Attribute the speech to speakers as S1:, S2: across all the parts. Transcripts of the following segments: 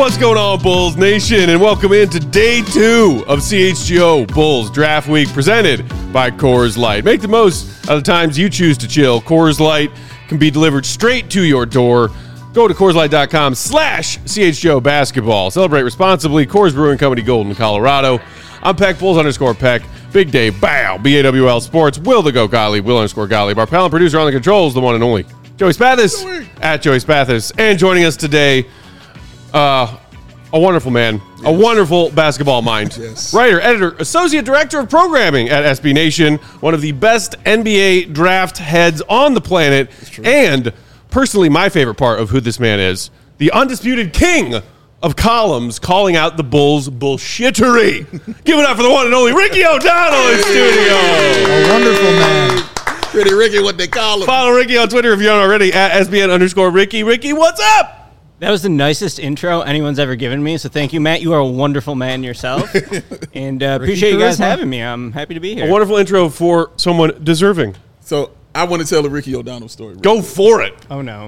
S1: What's going on, Bulls Nation, and welcome into day 2 of CHGO Bulls Draft Week, presented by Coors Light. Make the most of the times you choose to chill. Coors Light can be delivered straight to your door. Go to CoorsLight.com/CHGO Basketball. Celebrate responsibly. Coors Brewing Company, Golden, Colorado. I'm Peck, Bulls_Peck. Big Dave, Bow, BAWL Sports. Will the Go Gottlieb, Will_Gottlieb. Our pal and producer on the controls, the one and only Joey Spathis, at Joey Spathis. And joining us today, a wonderful man, a wonderful basketball mind, writer, editor, associate director of programming at SB Nation, one of the best NBA draft heads on the planet, and personally my favorite part of who this man is, the undisputed king of columns, calling out the Bulls' bullshittery. Give it up for the one and only Ricky O'Donnell in studio.
S2: A wonderful man.
S3: Pretty Ricky, what they call him.
S1: Follow Ricky on Twitter if you don't already, at SBN_Ricky. Ricky, what's up?
S4: That was the nicest intro anyone's ever given me, so thank you, Matt. You are a wonderful man yourself, and appreciate you guys having me. I'm happy to be here.
S1: A wonderful intro for someone deserving.
S3: So I want to tell the Ricky O'Donnell story.
S1: Go for it.
S4: Oh, no.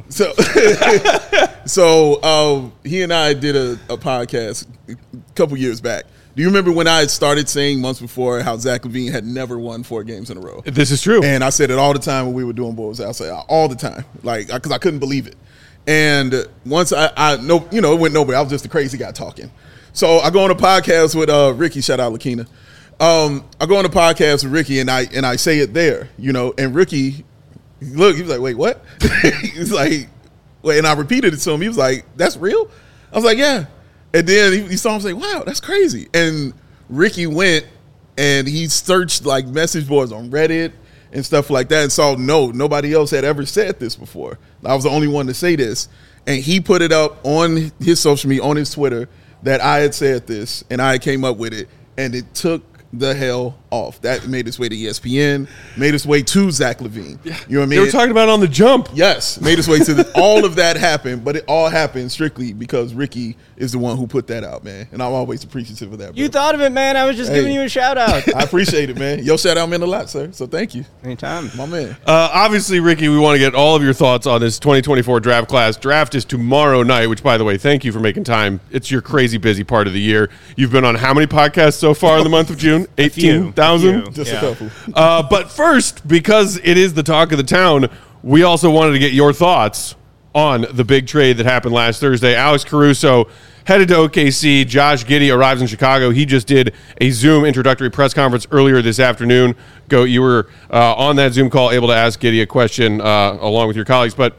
S3: So he and I did a podcast a couple years back. Do you remember when I had started saying months before how Zach LaVine had never won 4 games in a row?
S1: This is true.
S3: And I said it all the time when we were doing Bulls. I say all the time, like, because I couldn't believe it. And once I know, it went nowhere. I was just a crazy guy talking. So I go on a podcast with Ricky. Shout out Lakina. I go on a podcast with Ricky, and I say it there, And Ricky, look, he was like, "Wait, what?" He's like, "Wait," and I repeated it to him. He was like, "That's real?" I was like, "Yeah." And then he saw him say, "Wow, that's crazy." And Ricky went and he searched like message boards on Reddit and stuff like that, and saw nobody else had ever said this before. I was the only one to say this, and he put it up on his social media, on his Twitter, that I had said this, and I came up with it, and it took the hell off. That made its way to ESPN, made its way to Zach LaVine. You know what I mean?
S1: They were talking about it on the jump.
S3: Yes, made its way to all of that happened, but it all happened strictly because Ricky is the one who put that out, man. And I'm always appreciative of that, bro.
S4: You thought of it, man. I was just giving you a shout-out.
S3: I appreciate it, man. Your shout-out meant a lot, sir, so thank you.
S4: Anytime.
S3: My man.
S1: Obviously, Ricky, we want to get all of your thoughts on this 2024 draft class. Draft is tomorrow night, which, by the way, thank you for making time. It's your crazy busy part of the year. You've been on how many podcasts so far in the month of June? 18,000?
S3: Just a couple.
S1: But first, because it is the talk of the town, we also wanted to get your thoughts on the big trade that happened last Thursday. Alex Caruso headed to OKC. Josh Giddey arrives in Chicago. He just did a Zoom introductory press conference earlier this afternoon. You were on that Zoom call, able to ask Giddey a question along with your colleagues. But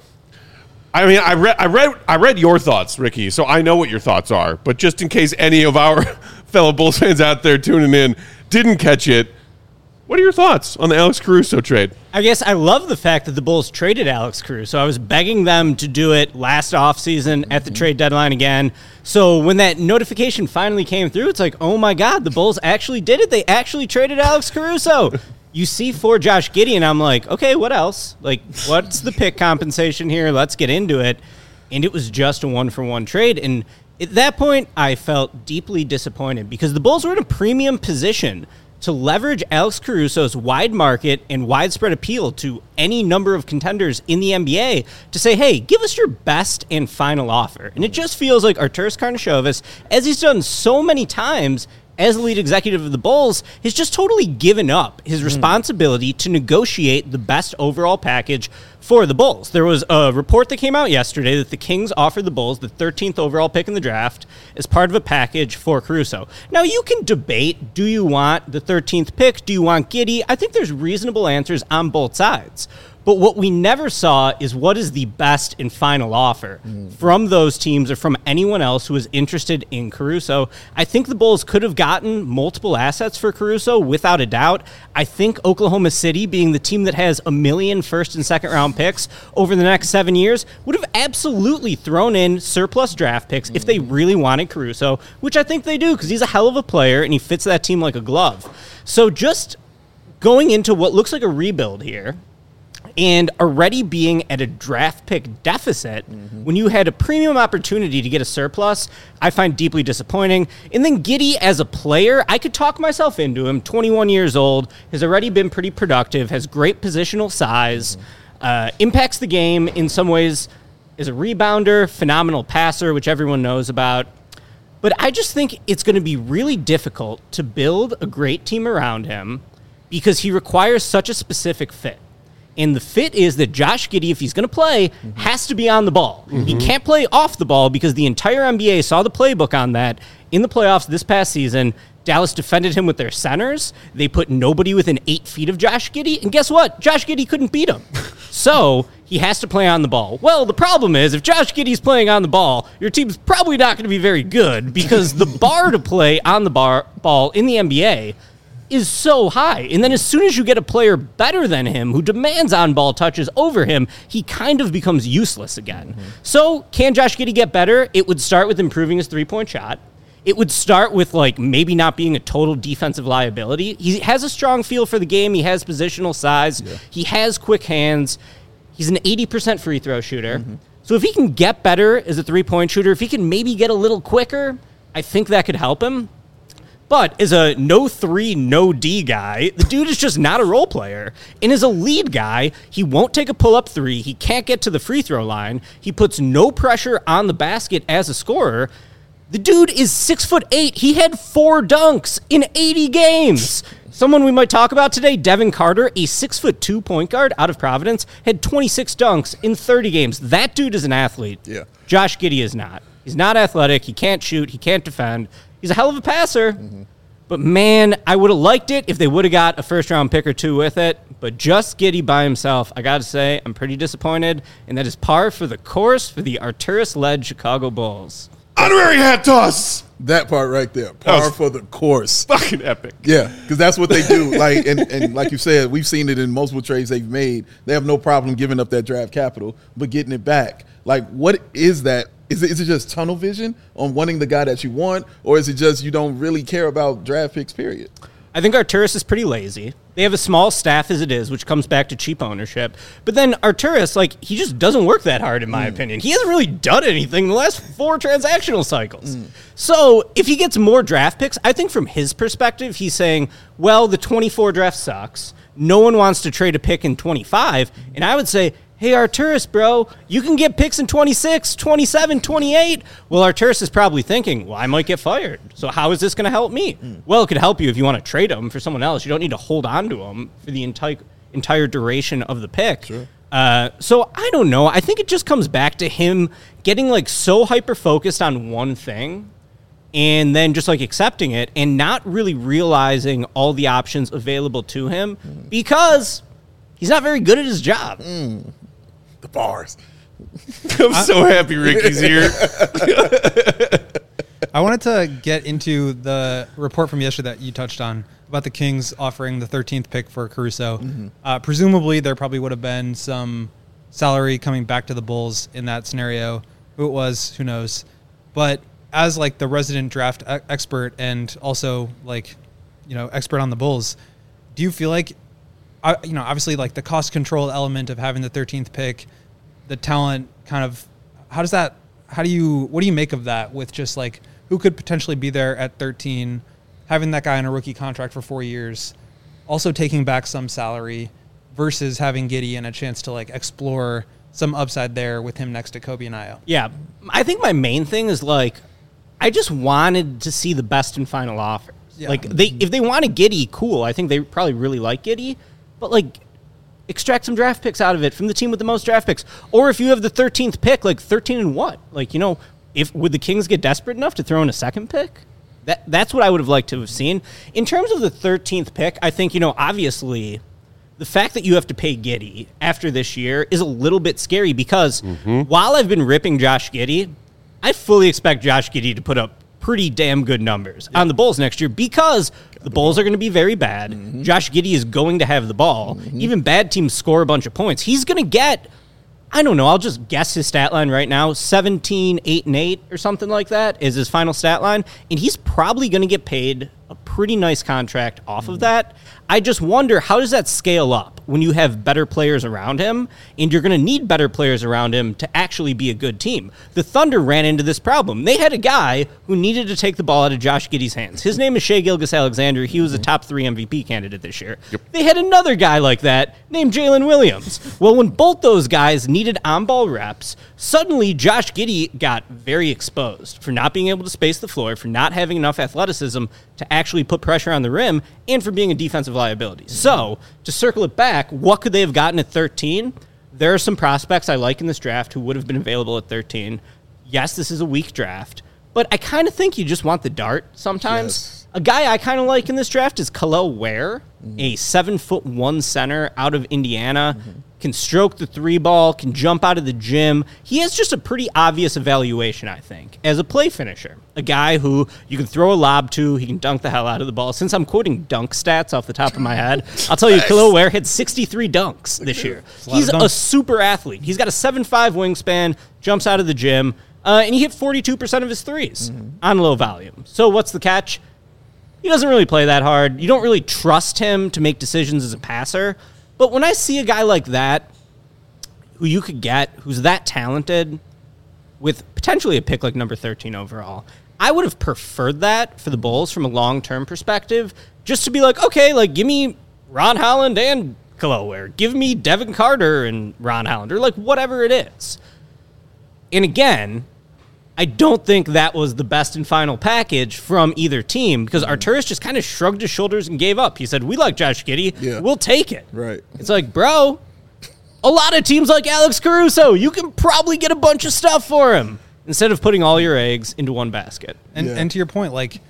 S1: I mean, I read your thoughts, Ricky, so I know what your thoughts are. But just in case any of our fellow Bulls fans out there tuning in didn't catch it, what are your thoughts on the Alex Caruso trade?
S4: I guess I love the fact that the Bulls traded Alex Caruso. I was begging them to do it last offseason at the trade deadline again. So when that notification finally came through, it's like, oh my God, the Bulls actually did it. They actually traded Alex Caruso. You see for Josh Giddey, and I'm like, okay, what else? Like, what's the pick compensation here? Let's get into it. And it was just a 1-for-1 trade. And at that point, I felt deeply disappointed because the Bulls were in a premium position to leverage Alex Caruso's wide market and widespread appeal to any number of contenders in the NBA to say, hey, give us your best and final offer. And it just feels like Arturas Karnisovas, as he's done so many times as the lead executive of the Bulls, has just totally given up his responsibility to negotiate the best overall package for the Bulls. There was a report that came out yesterday that the Kings offered the Bulls the 13th overall pick in the draft as part of a package for Caruso. Now, you can debate, do you want the 13th pick? Do you want Giddey? I think there's reasonable answers on both sides. But what we never saw is what is the best and final offer from those teams or from anyone else who is interested in Caruso. I think the Bulls could have gotten multiple assets for Caruso without a doubt. I think Oklahoma City, being the team that has 1 million first and second round picks over the next 7 years, would have absolutely thrown in surplus draft picks if they really wanted Caruso, which I think they do because he's a hell of a player and he fits that team like a glove. So just going into what looks like a rebuild here, and already being at a draft pick deficit when you had a premium opportunity to get a surplus, I find deeply disappointing. And then Giddey as a player, I could talk myself into him. 21 years old, has already been pretty productive, has great positional size, impacts the game in some ways, is a rebounder, phenomenal passer, which everyone knows about. But I just think it's going to be really difficult to build a great team around him because he requires such a specific fit. And the fit is that Josh Giddey, if he's going to play, has to be on the ball. He can't play off the ball because the entire NBA saw the playbook on that in the playoffs this past season. Dallas defended him with their centers. They put nobody within 8 feet of Josh Giddey. And guess what? Josh Giddey couldn't beat him. So he has to play on the ball. Well, the problem is if Josh Giddey's playing on the ball, your team's probably not going to be very good because the bar to play on the ball in the NBA is so high. And then as soon as you get a player better than him who demands on-ball touches over him, he kind of becomes useless again. So can Josh Giddey get better? It would start with improving his three-point shot. It would start with maybe not being a total defensive liability. He has a strong feel for the game. He has positional size. Yeah. He has quick hands. He's an 80% free throw shooter. So if he can get better as a three-point shooter, if he can maybe get a little quicker, I think that could help him. But as a no 3, no D guy, the dude is just not a role player. And as a lead guy, he won't take a pull-up 3. He can't get to the free throw line. He puts no pressure on the basket as a scorer. The dude is 6'8". He had 4 dunks in 80 games. Someone we might talk about today, Devin Carter, a 6'2" point guard out of Providence, had 26 dunks in 30 games. That dude is an athlete.
S3: Yeah.
S4: Josh Giddey is not. He's not athletic. He can't shoot. He can't defend. He's a hell of a passer. But, man, I would have liked it if they would have got a first-round pick or 2 with it. But just Giddey by himself, I got to say, I'm pretty disappointed. And that is par for the course for the Arturas-led Chicago Bulls.
S1: Honorary hat toss.
S3: That part right there. Par for the course.
S1: Fucking epic.
S3: Yeah, because that's what they do. And like you said, we've seen it in multiple trades they've made. They have no problem giving up that draft capital, but getting it back. What is that? Is it just tunnel vision on wanting the guy that you want, or is it just you don't really care about draft picks, period?
S4: I think Arturas is pretty lazy. They have a small staff as it is, which comes back to cheap ownership. But then Arturas, he just doesn't work that hard, in my opinion. He hasn't really done anything in the last 4 transactional cycles. So if he gets more draft picks, I think from his perspective, he's saying, well, the 24 draft sucks. No one wants to trade a pick in 25. And I would say, hey, Arturas, bro, you can get picks in 26, 27, 28. Well, Arturas is probably thinking, well, I might get fired. So how is this going to help me? Well, it could help you if you want to trade him for someone else. You don't need to hold on to him for the entire duration of the pick. Sure. So I don't know. I think it just comes back to him getting so hyper-focused on one thing and then just accepting it and not really realizing all the options available to him because he's not very good at his job.
S3: The bars.
S1: I'm so happy Ricky's here.
S2: I wanted to get into the report from yesterday that you touched on about the Kings offering the 13th pick for Caruso. Presumably, there probably would have been some salary coming back to the Bulls in that scenario. Who it was, who knows? But as the resident draft expert and also expert on the Bulls, do you feel like, obviously the cost control element of having the 13th pick, the talent kind of, what do you make of that with just who could potentially be there at 13, having that guy on a rookie contract for 4 years, also taking back some salary versus having Giddey and a chance to explore some upside there with him next to Kobe and Ayo?
S4: Yeah. I think my main thing is I just wanted to see the best and final offer. Yeah. If they wanted Giddey, cool. I think they probably really like Giddey. But, extract some draft picks out of it from the team with the most draft picks. Or if you have the 13th pick, 13 and what? Would the Kings get desperate enough to throw in a second pick? That's what I would have liked to have seen. In terms of the 13th pick, I think, obviously, the fact that you have to pay Giddey after this year is a little bit scary because while I've been ripping Josh Giddey, I fully expect Josh Giddey to put up pretty damn good numbers on the Bulls next year because the Bulls are going to be very bad. Josh Giddey is going to have the ball. Even bad teams score a bunch of points. He's going to get, I don't know, I'll just guess his stat line right now, 17, 8, and 8 or something like that is his final stat line. And he's probably going to get paid a pretty nice contract off of that. I just wonder, how does that scale up? when you have better players around him, and you're going to need better players around him to actually be a good team. The Thunder ran into this problem. They had a guy who needed to take the ball out of Josh Giddey's hands. His name is Shai Gilgeous-Alexander. He was a top 3 MVP candidate this year.
S1: Yep.
S4: They had another guy like that named Jalen Williams. Well, when both those guys needed on-ball reps, suddenly Josh Giddey got very exposed for not being able to space the floor, for not having enough athleticism to actually put pressure on the rim, and for being a defensive liability. So, to circle it back, what could they have gotten at 13? There are some prospects I like in this draft who would have been available at 13. Yes, this is a weak draft, but I kind of think you just want the dart sometimes.
S3: Yes.
S4: A guy I kind of like in this draft is Khalil Ware, a 7'1" center out of Indiana. Can stroke the 3 ball, can jump out of the gym. He has just a pretty obvious evaluation, I think, as a play finisher. A guy who you can throw a lob to, he can dunk the hell out of the ball. Since I'm quoting dunk stats off the top of my head, I'll tell you, Khalil Ware had 63 dunks this year. He's a super athlete. He's got a 7'5" wingspan, jumps out of the gym, and he hit 42% of his threes on low volume. So what's the catch? He doesn't really play that hard. You don't really trust him to make decisions as a passer. But when I see a guy like that, who you could get, who's that talented, with potentially a pick like number 13 overall, I would have preferred that for the Bulls from a long-term perspective, just to be like, okay, like, give me Ron Holland and Khalil Ware. Give me Devin Carter and Ron Holland, or like whatever it is. And again, I don't think that was the best and final package from either team, because Arturas just kind of shrugged his shoulders and gave up. He said, we like Josh Giddey.
S3: Yeah.
S4: We'll take it.
S3: Right.
S4: It's like, bro, a lot of teams like Alex Caruso, you can probably get a bunch of stuff for him instead of putting all your eggs into one basket.
S2: And to your point, like,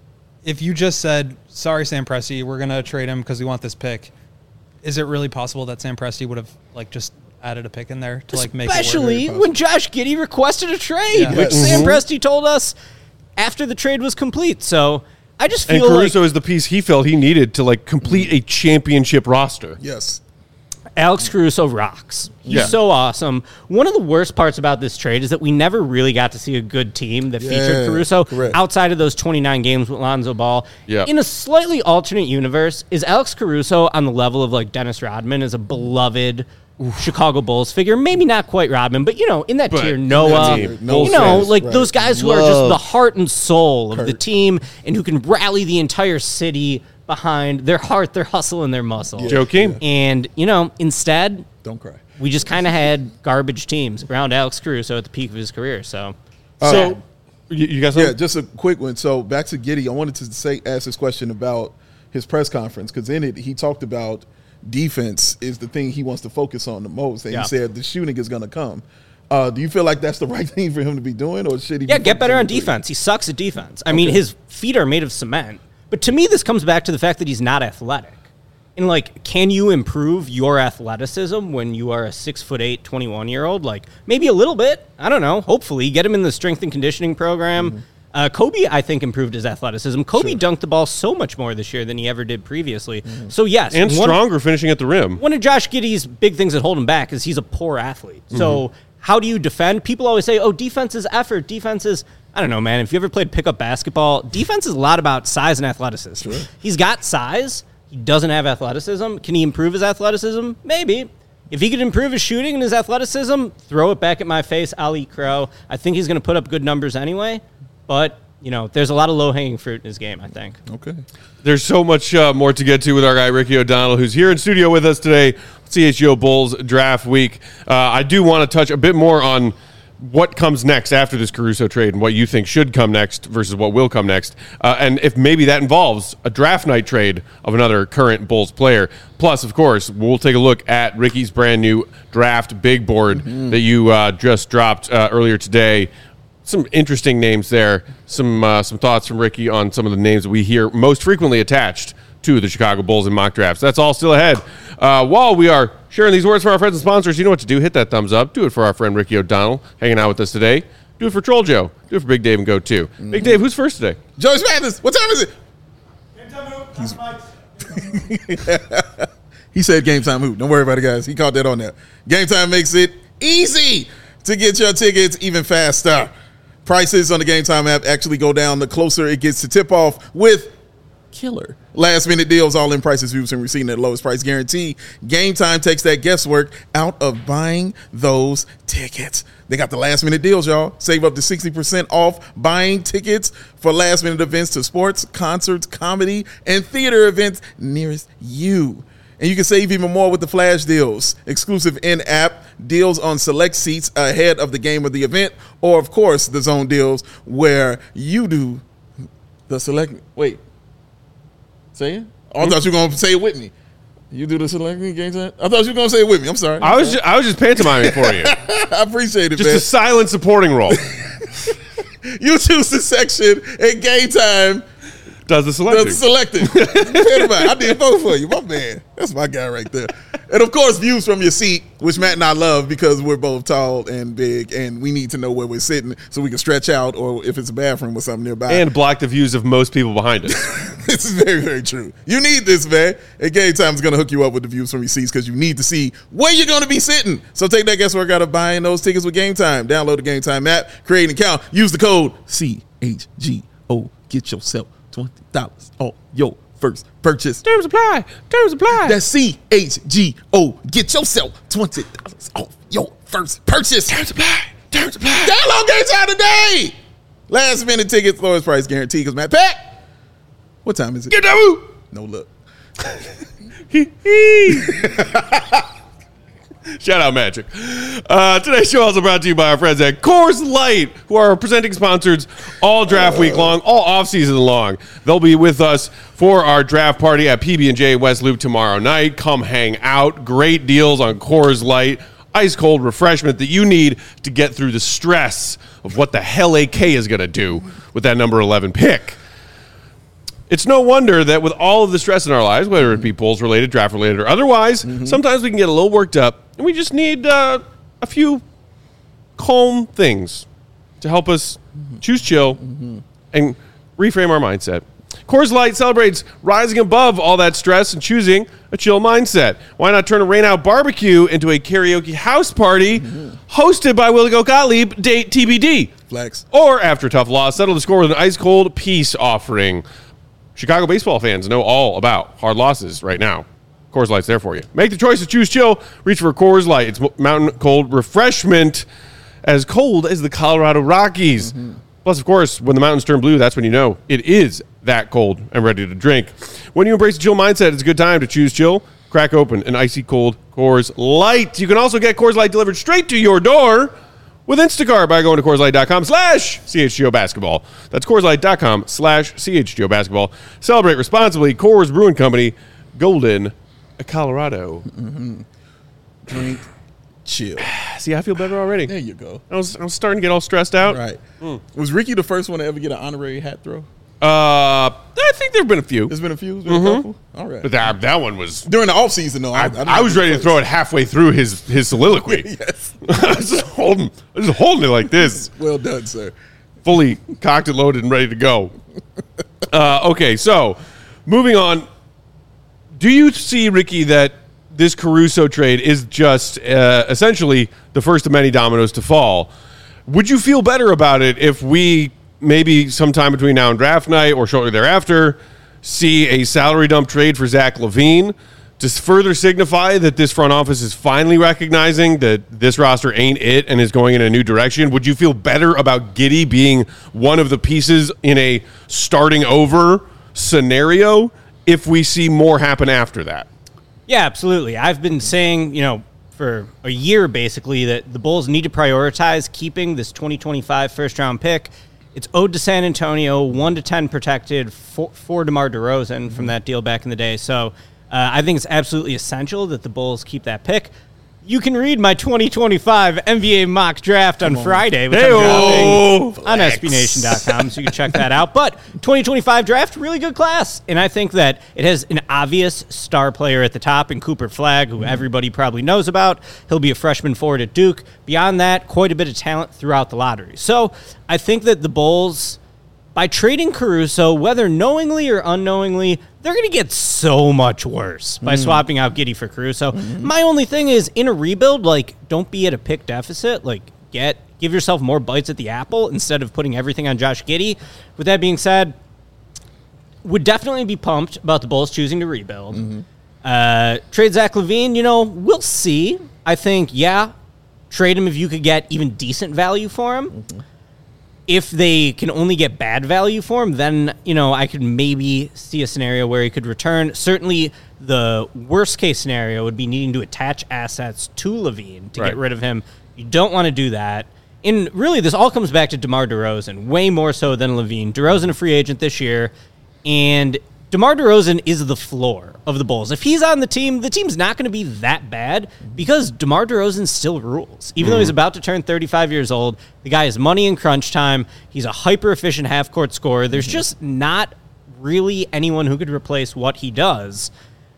S2: if you just said, sorry, Sam Presti, we're going to trade him because we want this pick, is it really possible that Sam Presti would have, like, just added a pick in there to like make it work?
S4: Especially when Josh Giddey requested a trade, which
S3: Yes.
S4: Sam Presti told us after the trade was complete. So I just
S1: And
S4: feel
S1: Caruso
S4: like
S1: is the piece he felt he needed to like complete a championship roster.
S3: Yes.
S4: Alex Caruso rocks. He's
S1: Yeah.
S4: so awesome. One of the worst parts about this trade is that we never really got to see a good team that featured Caruso
S3: correct.
S4: outside of those 29 games with Lonzo Ball.
S1: Yeah.
S4: In a slightly alternate universe, is Alex Caruso on the level of like Dennis Rodman as a beloved Chicago Bulls figure? Maybe not quite Rodman, but, you know, in that
S1: But
S4: tier,
S1: in
S4: Noah,
S1: that team,
S3: Noah
S4: you know,
S3: Fast,
S4: like
S3: right.
S4: those guys who are just
S3: Love
S4: the heart and soul of the
S3: Kurt.
S4: team and who can rally the entire city behind their heart, their hustle, and their muscle.
S1: Joakim.
S4: And, you know, instead,
S3: Don't cry.
S4: we just kind of had garbage teams around Alex Caruso at the peak of his career. So,
S1: So, you guys,
S3: Yeah, just a quick one. So back to Giddey, I wanted to ask this question about his press conference, because in it he talked about defense is the thing he wants to focus on the most, and
S4: Yeah.
S3: he said the shooting is going to come. Do you feel like that's the right thing for him to be doing, or should he?
S4: yeah,
S3: be
S4: get better
S3: focusing
S4: on
S3: on three?
S4: defense. He sucks at defense. I mean, his feet are made of cement. But to me, this comes back to the fact that he's not athletic. And, like, can you improve your athleticism when you are a 6'8", 21-year-old? Like, maybe a little bit. I don't know. Hopefully. Get him in the strength and conditioning program. Kobe, I think, improved his athleticism. Kobe dunked the ball so much more this year than he ever did previously. So, yes.
S1: and
S4: one-
S1: stronger finishing at the rim.
S4: One of Josh Giddey's big things that hold him back is he's a poor athlete. So how do you defend? People always say, oh, defense is effort. Defense is, I don't know, man. If you ever played pickup basketball, defense is a lot about size and athleticism. He's got size. He doesn't have athleticism. Can he improve his athleticism? Maybe. If he could improve his shooting and his athleticism, throw it back at my face. I'll eat crow. I think he's going to put up good numbers anyway. But, you know, there's a lot of low-hanging fruit in his game, I think.
S3: Okay.
S1: There's so much more to get to with our guy Ricky O'Donnell, who's here in studio with us today. CHGO Bulls Draft Week. I do want to touch a bit more on what comes next after this Caruso trade and what you think should come next versus what will come next. And if maybe that involves a draft night trade of another current Bulls player. Plus, of course, we'll take a look at Ricky's brand new draft big board that you just dropped earlier today. Some interesting names there. Some thoughts from Ricky on some of the names that we hear most frequently attached to the Chicago Bulls in mock drafts. That's all still ahead. While we are sharing these words for our friends and sponsors, you know what to do. Hit that thumbs up. Do it for our friend Ricky O'Donnell hanging out with us today. Do it for Troll Joe. Do it for Big Dave and Go Too. Big Dave, who's first today?
S3: Joyce Mathis, what time is it? He said game time hoop. Don't worry about it, guys. He caught that on there. Game time makes it easy to get your tickets even faster. Prices on the Game Time app actually go down the closer it gets to tip off with killer. Last minute deals, all in prices, views, and receiving at the lowest price guarantee. Game Time takes that guesswork out of buying those tickets. They got the last minute deals, y'all. Save up to 60% off buying tickets for last minute events to sports, concerts, comedy, and theater events nearest you. And you can save even more with the flash deals. Exclusive in-app deals on select seats ahead of the game or the event. Or, of course, the zone deals where you do the select. Wait. Say it? Oh, I thought you were going to say it with me. You do the select game time? I thought you were going to say it with me. I'm sorry.
S1: I was just pantomiming for you.
S3: I appreciate it,
S1: Just
S3: man.
S1: a silent supporting role.
S3: You choose the section at Game Time.
S1: Does the selecting.
S3: Selected. I did both for you. My man. That's my guy right there. And, of course, views from your seat, which Matt and I love because we're both tall and big, and we need to know where we're sitting so we can stretch out or if it's a bathroom or something nearby.
S1: And block the views of most people behind us.
S3: This is very, very true. You need this, man. And Game Time is going to hook you up with the views from your seats because you need to see where you're going to be sitting. So take that guesswork out of buying those tickets with Game Time. Download the Game Time app, create an account, use the code CHGO. Get yourself $20 off your first purchase.
S1: Terms apply. Terms apply.
S3: That's CHGO. Get yourself $20 off your first purchase. Terms apply. Terms apply. Download Game Time today. Last minute tickets, lowest price guarantee. Because Matt Pat, what time is it?
S1: Get that woo.
S3: No look.
S1: Shout out Magic. Today's show also brought to you by our friends at Coors Light, who are presenting sponsors all draft week long, all offseason long. They'll be with us for our draft party at PB&J West Loop tomorrow night. Come hang out. Great deals on Coors Light. Ice cold refreshment that you need to get through the stress of what the hell AK is going to do with that number 11 pick. It's no wonder that with all of the stress in our lives, whether it be polls related, draft related, or otherwise, sometimes we can get a little worked up, and we just need a few calm things to help us choose chill and reframe our mindset. Coors Light celebrates rising above all that stress and choosing a chill mindset. Why not turn a rain-out barbecue into a karaoke house party hosted by Willie Gottlieb, date TBD.
S3: Flex.
S1: Or, after a tough loss, settle the score with an ice-cold peace offering. Chicago baseball fans know all about hard losses right now. Coors Light's there for you. Make the choice to choose chill. Reach for Coors Light. It's mountain cold refreshment as cold as the Colorado Rockies. Plus, of course, when the mountains turn blue, that's when you know it is that cold and ready to drink. When you embrace a chill mindset, it's a good time to choose chill. Crack open an icy cold Coors Light. You can also get Coors Light delivered straight to your door with Instacart by going to CoorsLight.com/CHGO Basketball. That's CoorsLight.com/CHGO Basketball. Celebrate responsibly. Coors Brewing Company, Golden, Colorado.
S3: Drink, chill.
S1: See, I feel better already.
S3: There you go.
S1: I was starting to get all stressed out.
S3: Right. Was Ricky the first one to ever get an honorary hat throw?
S1: I think there have been a few.
S3: There's been a few. There's been a couple. All right.
S1: But that one was...
S3: During the offseason, though.
S1: I was ready to throw it halfway through his soliloquy.
S3: Yes.
S1: I was just holding it like this.
S3: Well done, sir.
S1: Fully cocked and loaded and ready to go. Okay, so moving on. Do you see, Ricky, that this Caruso trade is just essentially the first of many dominoes to fall? Would you feel better about it if we maybe sometime between now and draft night or shortly thereafter see a salary dump trade for Zach LaVine to further signify that this front office is finally recognizing that this roster ain't it and is going in a new direction? Would you feel better about Giddey being one of the pieces in a starting over scenario if we see more happen after that?
S4: Yeah, absolutely. I've been saying, for a year basically, that the Bulls need to prioritize keeping this 2025 first-round pick. It's owed to San Antonio, 1 to 10 protected for DeMar DeRozan from that deal back in the day. So I think it's absolutely essential that the Bulls keep that pick. You can read my 2025 NBA mock draft on Friday, which I'm dropping on SBNation.com, so you can check that out. But 2025 draft, really good class. And I think that it has an obvious star player at the top in Cooper Flagg, who everybody probably knows about. He'll be a freshman forward at Duke. Beyond that, quite a bit of talent throughout the lottery. So I think that the Bulls, by trading Caruso, whether knowingly or unknowingly, they're going to get so much worse by swapping out Giddey for Caruso. My only thing is, in a rebuild, don't be at a pick deficit. Give yourself more bites at the apple instead of putting everything on Josh Giddey. With that being said, would definitely be pumped about the Bulls choosing to rebuild. Trade Zach LaVine, we'll see. I think, trade him if you could get even decent value for him. If they can only get bad value for him, then, I could maybe see a scenario where he could return. Certainly, the worst case scenario would be needing to attach assets to LaVine to get rid of him. You don't want to do that. And really, this all comes back to DeMar DeRozan, way more so than LaVine. DeRozan, a free agent this year, and DeMar DeRozan is the floor of the Bulls. If he's on the team's not going to be that bad because DeMar DeRozan still rules. Even though he's about to turn 35 years old, the guy has money in crunch time. He's a hyper-efficient half-court scorer. There's just not really anyone who could replace what he does.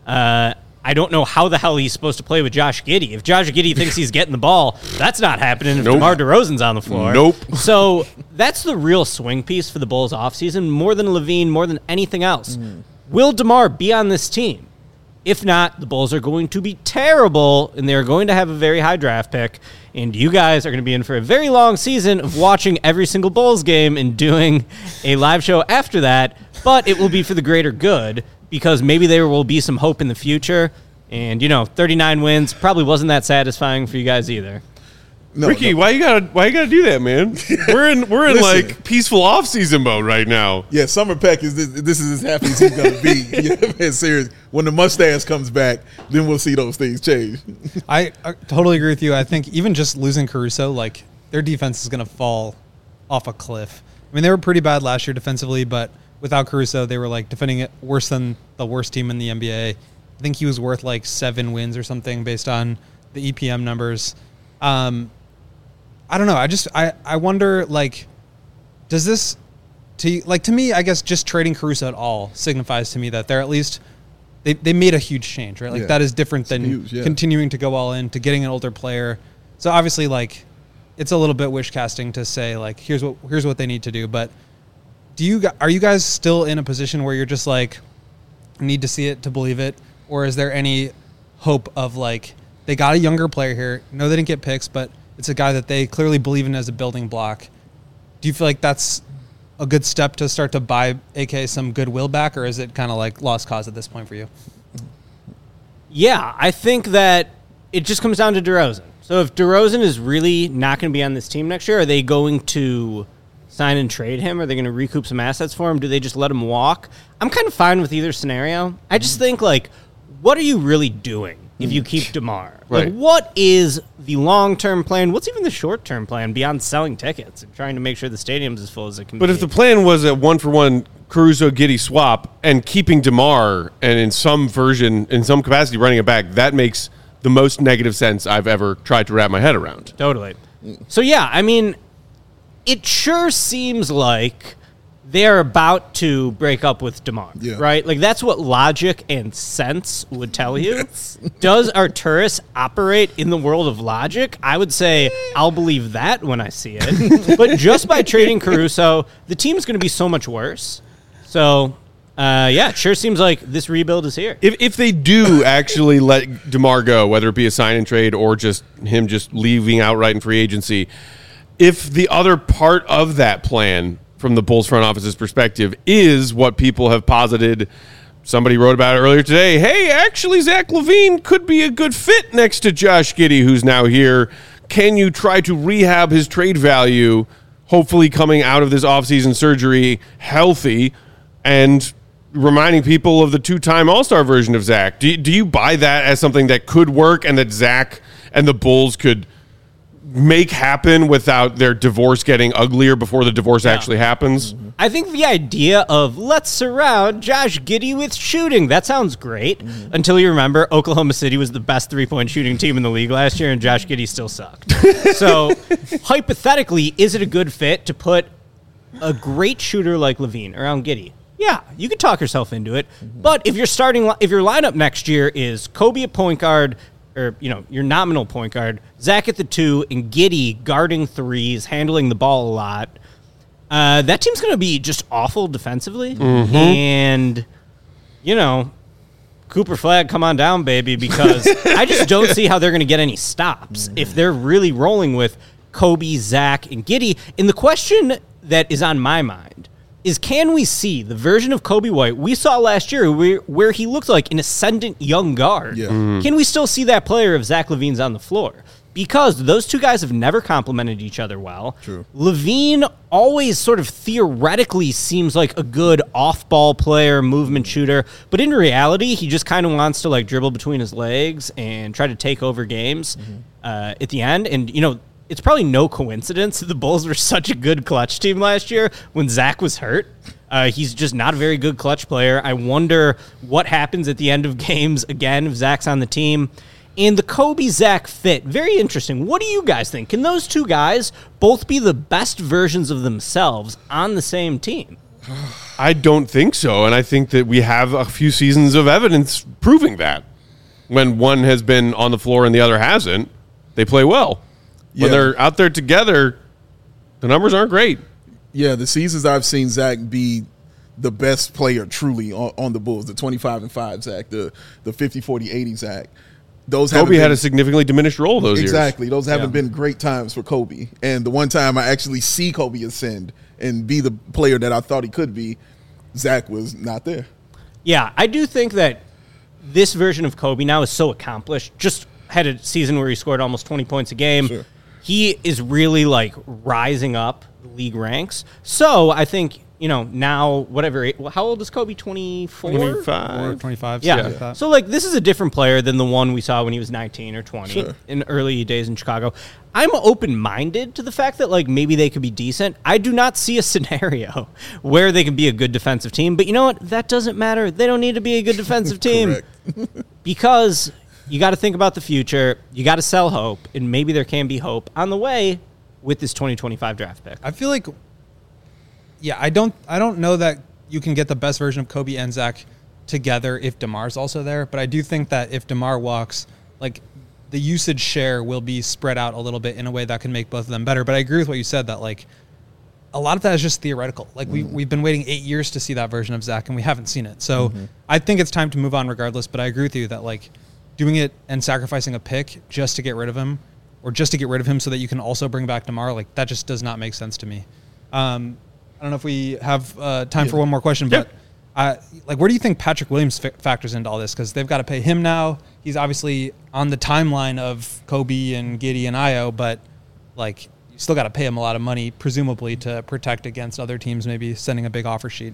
S4: I don't know how the hell he's supposed to play with Josh Giddey. If Josh Giddey thinks he's getting the ball, that's not happening if DeMar DeRozan's on the floor. So that's the real swing piece for the Bulls offseason, more than LaVine, more than anything else. Will DeMar be on this team? If not, the Bulls are going to be terrible, and they're going to have a very high draft pick, and you guys are going to be in for a very long season of watching every single Bulls game and doing a live show after that, but it will be for the greater good, because maybe there will be some hope in the future. And, 39 wins probably wasn't that satisfying for you guys either.
S3: No,
S1: Ricky, why you gotta do that, man? We're in like peaceful off-season mode right now.
S3: Yeah, Summer Peck is this is as happy as he's gonna be. Man, serious. When the mustache comes back, then we'll see those things change.
S2: I totally agree with you. I think even just losing Caruso, like, their defense is going to fall off a cliff. I mean, they were pretty bad last year defensively, but without Caruso, they were like defending it worse than the worst team in the NBA. I think he was worth like 7 wins or something based on the EPM numbers. I don't know. I wonder, like, does this, to me, I guess just trading Caruso at all signifies to me that they're at least, they made a huge change, right? Like, that is different than continuing to go all in, to getting an older player. So obviously, like, it's a little bit wish casting to say, like, here's what they need to do. But are you guys still in a position where you're just like, need to see it to believe it? Or is there any hope of, like, they got a younger player here? No, they didn't get picks, but it's a guy that they clearly believe in as a building block. Do you feel like that's a good step to start to buy AK some goodwill back, or is it kind of like lost cause at this point for you?
S4: Yeah, I think that it just comes down to DeRozan. So if DeRozan is really not going to be on this team next year, are they going to sign and trade him? Are they going to recoup some assets for him? Do they just let him walk? I'm kind of fine with either scenario. I just think, like, what are you really doing if you keep DeMar?
S1: Right.
S4: Like, what is the long-term plan? What's even the short-term plan beyond selling tickets and trying to make sure the stadium's as full as it can be?
S1: But if the plan was a 1-for-1 Caruso-Giddey swap and keeping DeMar and in some version, in some capacity, running it back, that makes the most negative sense I've ever tried to wrap my head around.
S4: Totally. So, yeah, I mean, it sure seems like they're about to break up with DeMar, right? Like, that's what logic and sense would tell you. Does Arturas operate in the world of logic? I would say I'll believe that when I see it. But just by trading Caruso, the team's going to be so much worse. So, it sure seems like this rebuild is here.
S1: If they do actually let DeMar go, whether it be a sign and trade or just him just leaving outright in free agency, if the other part of that plan from the Bulls front office's perspective is what people have posited, somebody wrote about it earlier today, hey, actually Zach LaVine could be a good fit next to Josh Giddey, who's now here. Can you try to rehab his trade value, hopefully coming out of this offseason surgery healthy, and reminding people of the 2-time All-Star version of Zach? Do you buy that as something that could work and that Zach and the Bulls could make happen without their divorce getting uglier before the divorce actually happens?
S4: I think the idea of let's surround Josh Giddey with shooting, that sounds great, until you remember Oklahoma City was the best three-point shooting team in the league last year, and Josh Giddey still sucked. So, hypothetically, is it a good fit to put a great shooter like LaVine around Giddey? Yeah, you could talk yourself into it. But if your lineup next year is Kobe at point guard, or, your nominal point guard, Zach at the 2, and Giddey guarding threes, handling the ball a lot, that team's going to be just awful defensively. And, Cooper Flag, come on down, baby, because I just don't see how they're going to get any stops if they're really rolling with Kobe, Zach, and Giddey. And the question that is on my mind is can we see the version of Kobe White we saw last year where he looked like an ascendant young guard?
S3: Yeah.
S4: Can we still see that player if Zach LaVine's on the floor? Because those two guys have never complemented each other well.
S3: True.
S4: LaVine always sort of theoretically seems like a good off-ball player, movement shooter, but in reality, he just kind of wants to like dribble between his legs and try to take over games at the end. And, you know, it's probably no coincidence that the Bulls were such a good clutch team last year when Zach was hurt. He's just not a very good clutch player. I wonder what happens at the end of games, again, if Zach's on the team. And the Kobe-Zach fit, very interesting. What do you guys think? Can those two guys both be the best versions of themselves on the same team?
S1: I don't think so, and I think that we have a few seasons of evidence proving that. When one has been on the floor and the other hasn't, they play well. When they're out there together, the numbers aren't great.
S3: Yeah, the seasons I've seen Zach be the best player truly on the Bulls, the 25-5 Zach, the 50-40-80 Zach.
S1: Kobe had a significantly diminished role those years.
S3: Exactly. Those haven't been great times for Kobe. And the one time I actually see Kobe ascend and be the player that I thought he could be, Zach was not there.
S4: Yeah, I do think that this version of Kobe now is so accomplished. Just had a season where he scored almost 20 points a game.
S3: Sure.
S4: He is really, like, rising up the league ranks. So I think, you know, now, whatever, how old is Kobe? 24?
S1: 25.
S2: 25.
S4: Yeah.
S2: Something like that.
S4: So, like, this is a different player than the one we saw when he was 19 or 20
S3: Sure.
S4: in early days in Chicago. I'm open-minded to the fact that, like, maybe they could be decent. I do not see a scenario where they can be a good defensive team. But you know what? That doesn't matter. They don't need to be a good defensive team. Because you got to think about the future. You got to sell hope. And maybe there can be hope on the way with this 2025 draft pick.
S2: I feel like, yeah, I don't know that you can get the best version of Kobe and Zach together if DeMar's also there. But I do think that if DeMar walks, like, the usage share will be spread out a little bit in a way that can make both of them better. But I agree with what you said, that, like, a lot of that is just theoretical. Like, we've been waiting 8 years to see that version of Zach, and we haven't seen it. So I think it's time to move on regardless. But I agree with you that, like, doing it and sacrificing a pick just to get rid of him, or just to get rid of him so that you can also bring back DeMar, like, that just does not make sense to me. I don't know if we have time for one more question, but like, where do you think Patrick Williams factors into all this? Because they've got to pay him now. He's obviously on the timeline of Kobe and Giddey and Ayo, but, like, you still got to pay him a lot of money, presumably, to protect against other teams maybe sending a big offer sheet.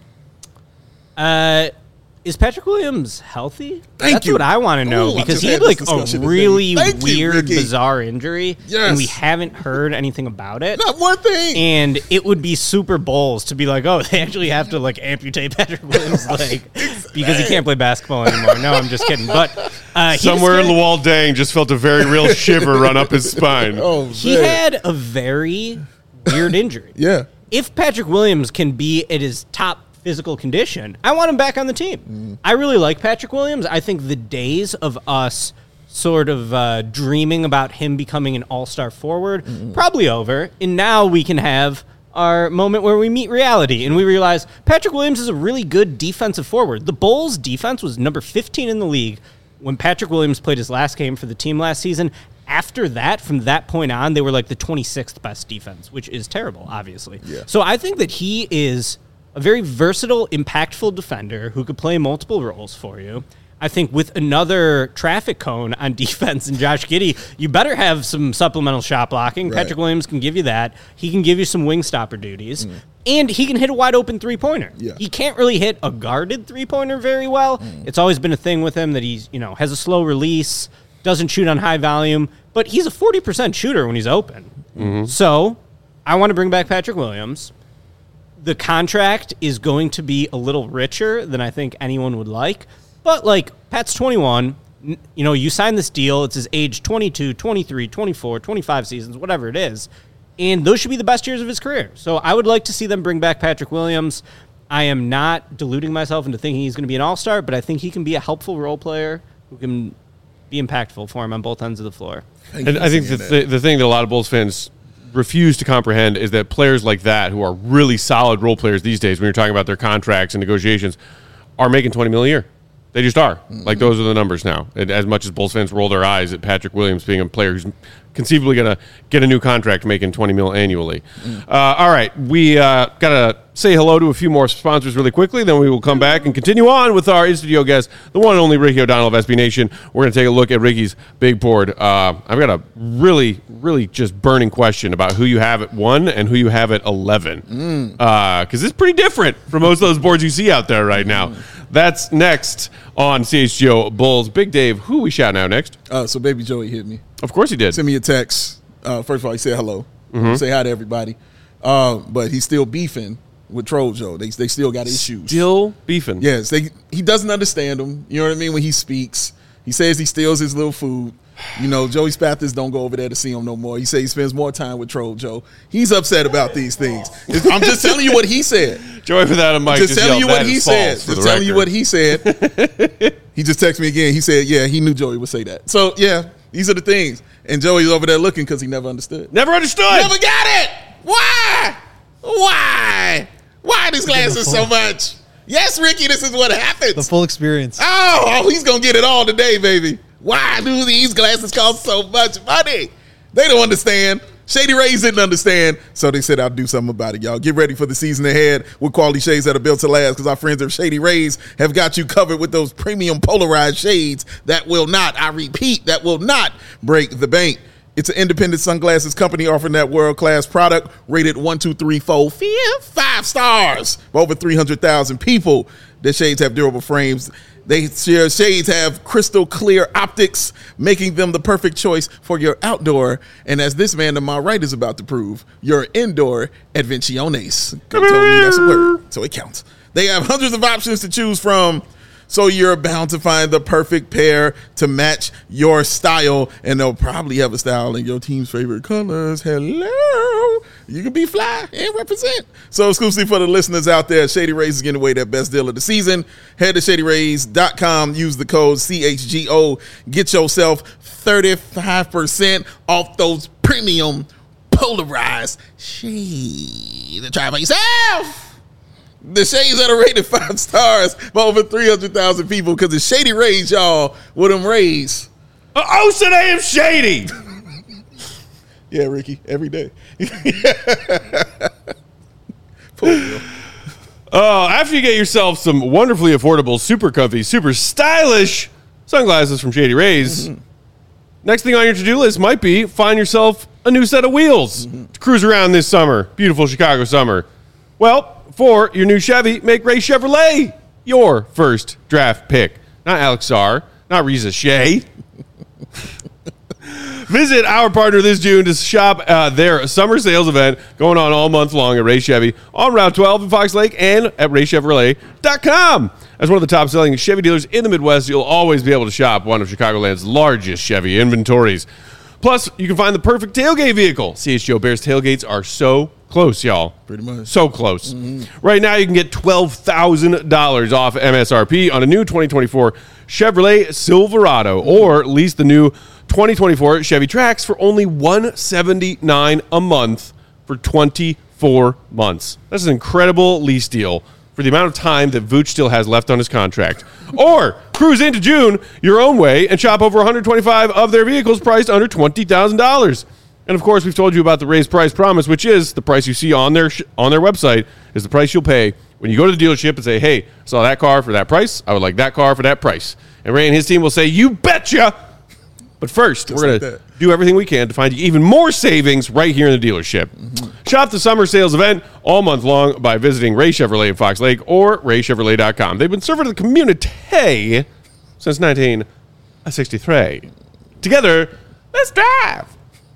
S4: Is Patrick Williams healthy?
S3: Thank
S4: That's
S3: you.
S4: what I want to know,
S3: Ooh, I
S4: because
S3: just
S4: he
S3: had
S4: had,
S3: this
S4: like, a
S3: discussion today.
S4: really
S3: Thank you,
S4: weird,
S3: Ricky.
S4: bizarre injury,
S3: Yes.
S4: and we haven't heard anything about it.
S3: Not one thing.
S4: And it would be Super Bowls to be like, oh, they actually have to, like, amputate Patrick Williams' leg because he can't play basketball anymore. No, I'm just kidding. But
S1: Somewhere in Luol Deng just felt a very real shiver run up his spine.
S3: Oh,
S4: he
S3: man.
S4: had a very weird injury.
S3: Yeah.
S4: If Patrick Williams can be at his top physical condition, I want him back on the team. I really like Patrick Williams. I think the days of us sort of dreaming about him becoming an all-star forward probably over, and now we can have our moment where we meet reality and we realize Patrick Williams is a really good defensive forward. The Bulls' defense was number 15 in the league when Patrick Williams played his last game for the team last season. After that, from that point on, they were like the 26th best defense, which is terrible, obviously.
S3: Yeah.
S4: So I think that he is a very versatile, impactful defender who could play multiple roles for you. I think with another traffic cone on defense and Josh Giddey, you better have some supplemental shot blocking.
S3: Right.
S4: Patrick Williams can give you that. He can give you some wing stopper duties. And he can hit a wide open three-pointer.
S3: Yeah.
S4: He can't really hit a guarded three-pointer very well. It's always been a thing with him that he's, you know, has a slow release, doesn't shoot on high volume, but he's a 40% shooter when he's open. So I want to bring back Patrick Williams. The contract is going to be a little richer than I think anyone would like. But, like, Pat's 21. You know, you sign this deal. It's his age 22, 23, 24, 25 seasons, whatever it is. And those should be the best years of his career. So I would like to see them bring back Patrick Williams. I am not deluding myself into thinking he's going to be an all-star, but I think he can be a helpful role player who can be impactful for him on both ends of the floor.
S1: And I think the thing that a lot of Bulls fans refuse to comprehend is that players like that, who are really solid role players these days, when you're talking about their contracts and negotiations, are making $20 million a year. They just are. Like, those are the numbers now. And as much as Bulls fans roll their eyes at Patrick Williams being a player who's conceivably going to get a new contract making $20 million annually. All right, we got to say hello to a few more sponsors really quickly. Then we will come back and continue on with our in-studio guest, the one and only Ricky O'Donnell of SB Nation. We're going to take a look at Ricky's big board. I've got a really, really just burning question about who you have at 1 and who you have at 11. Because it's pretty different from most of those boards you see out there right now. That's next on CHGO Bulls. Big Dave, who we shouting out next?
S3: So Baby Joey hit me.
S1: Of course he did.
S3: Send me a text. First of all, he said hello. Say hi to everybody. But he's still beefing with Troll Joe. They still got issues.
S1: Still beefing.
S3: Yes, he doesn't understand him. You know what I mean? When he speaks, he says he steals his little food. You know, Joey Spathis don't go over there to see him no more. He says he spends more time with Troll Joe. He's upset about these things. I'm just telling you what he said.
S1: Joey without a mic.
S3: Just telling you what he said. Just telling you what he said. He just texted me again. He said, yeah, he knew Joey would say that. So, yeah, these are the things. And Joey's over there looking because he never understood.
S1: Never understood.
S3: Never got it. Why? Why these glasses so much? Yes, Ricky, this is what happens.
S2: The full experience.
S3: Oh, he's going to get it all today, baby. Why do these glasses cost so much money? They don't understand. Shady Rays didn't understand, so they said I'll do something about it, y'all. Get ready for the season ahead with quality shades that are built to last, because our friends at Shady Rays have got you covered with those premium polarized shades that will not, I repeat, that will not break the bank. It's an independent sunglasses company offering that world-class product, rated 1, 2, 3, 4, 5 stars for over 300,000 people. Their shades have durable frames. Their shades have crystal clear optics, making them the perfect choice for your outdoor, and as this man to my right is about to prove, your indoor adventiones. Told me that's a word, so it counts. They have hundreds of options to choose from, so you're bound to find the perfect pair to match your style, and they'll probably have a style in your team's favorite colors. Hello. You can be fly and represent. So exclusively for the listeners out there, Shady Rays is giving away their best deal of the season. Head to ShadyRays.com. Use the code CHGO. Get yourself 35% off those premium polarized shades. Try it by yourself. The shades that are rated 5 stars by over 300,000 people, because it's Shady Rays, y'all, with them rays.
S1: So they am shady.
S3: Yeah, Ricky, every day.
S1: After you get yourself some wonderfully affordable, super comfy, super stylish sunglasses from Shady Rays, next thing on your to-do list might be find yourself a new set of wheels to cruise around this summer. Beautiful Chicago summer. Well, for your new Chevy, make Ray Chevrolet your first draft pick. Not Alex Sarr, not Reza Shea. Visit our partner this June to shop their summer sales event going on all month long at Ray Chevy on Route 12 in Fox Lake and at RayChevrolet.com. As one of the top-selling Chevy dealers in the Midwest, you'll always be able to shop one of Chicagoland's largest Chevy inventories. Plus, you can find the perfect tailgate vehicle. CHGO Bears tailgates are so close, y'all.
S3: Pretty much.
S1: So close. Right now, you can get $12,000 off MSRP on a new 2024 Chevrolet Silverado, or lease the new 2024 Chevy Trax for only $179 a month for 24 months. That's an incredible lease deal for the amount of time that Vooch still has left on his contract. Or cruise into June your own way and shop over 125 of their vehicles priced under $20,000. And, of course, we've told you about the raised price promise, which is the price you see on their website is the price you'll pay when you go to the dealership and say, hey, I saw that car for that price. I would like that car for that price. And Ray and his team will say, you betcha. But first, we're going to do everything we can to find you even more savings right here in the dealership. Shop the summer sales event all month long by visiting Ray Chevrolet in Fox Lake or RayChevrolet.com. They've been serving the community since 1963. Together, let's drive.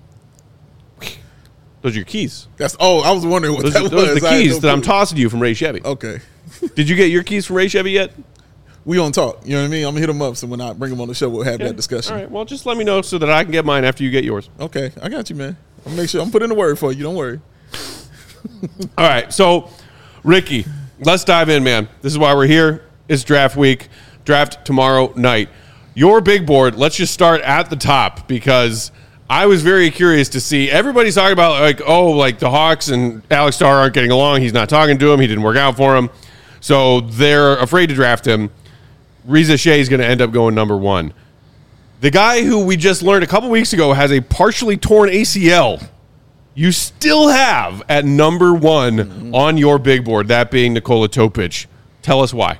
S1: Those are your keys.
S3: I was wondering what that was.
S1: Those are the keys that I'm tossing you from Ray Chevy.
S3: Okay.
S1: Did you get your keys from Ray Chevy yet?
S3: We gonna talk. You know what I mean? I'm gonna hit them up, so when I bring them on the show, we'll have that discussion.
S1: All right. Well, just let me know so that I can get mine after you get yours.
S3: Okay, I got you, man. I'll make sure I'm putting in the word for you. Don't worry.
S1: All right. So, Ricky, let's dive in, man. This is why we're here. It's draft week. Draft tomorrow night. Your big board. Let's just start at the top, because I was very curious to see. Everybody's talking about like the Hawks and Alex Sarr aren't getting along. He's not talking to him. He didn't work out for him, so they're afraid to draft him. Reza Shea is going to end up going number 1. The guy who we just learned a couple weeks ago has a partially torn ACL. you still have at number one on your big board, that being Nikola Topic. Tell us why.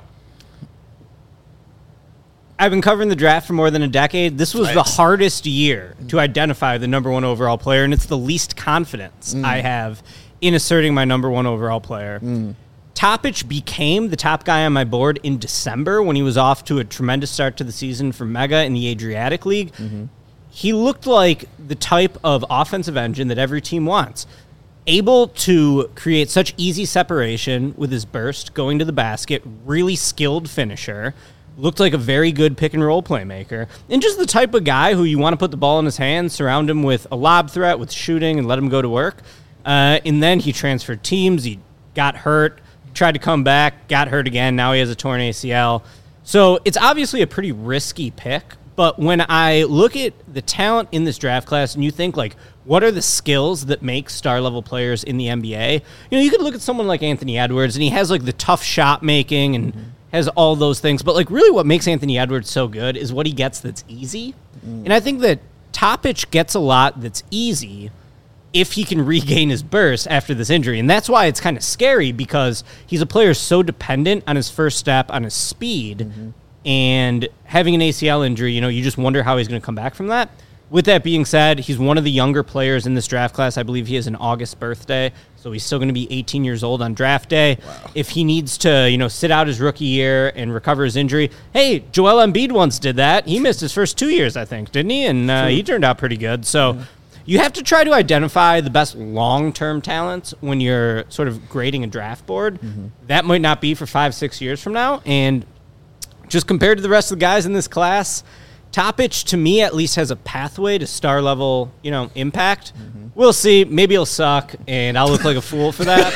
S4: I've been covering the draft for more than a decade. This was the hardest year to identify the number one overall player, and it's the least confidence I have in asserting my number one overall player. Topic became the top guy on my board in December when he was off to a tremendous start to the season for Mega in the Adriatic League. He looked like the type of offensive engine that every team wants. Able to create such easy separation with his burst, going to the basket, really skilled finisher. Looked like a very good pick-and-roll playmaker. And just the type of guy who you want to put the ball in his hands, surround him with a lob threat, with shooting, and let him go to work. And then he transferred teams. He got hurt, tried to come back, got hurt again. Now he has a torn ACL. So it's obviously a pretty risky pick. But when I look at the talent in this draft class and you think, like, what are the skills that make star-level players in the NBA? You know, you could look at someone like Anthony Edwards, and he has, like, the tough shot-making and has all those things. But, like, really what makes Anthony Edwards so good is what he gets that's easy. And I think that Topic gets a lot that's easy if he can regain his burst after this injury. And that's why it's kind of scary, because he's a player so dependent on his first step, on his speed, and having an ACL injury, you know, you just wonder how he's going to come back from that. With that being said, he's one of the younger players in this draft class. I believe he has an August birthday, so he's still going to be 18 years old on draft day. Wow. If he needs to, you know, sit out his rookie year and recover his injury, hey, Joel Embiid once did that. He missed his first 2 years, I think, didn't he? And he turned out pretty good. So you have to try to identify the best long-term talents when you're sort of grading a draft board. That might not be for 5-6 years from now. And just compared to the rest of the guys in this class, Topic, to me, at least has a pathway to star-level, you know, impact. We'll see. Maybe he'll suck, and I'll look like a fool for that.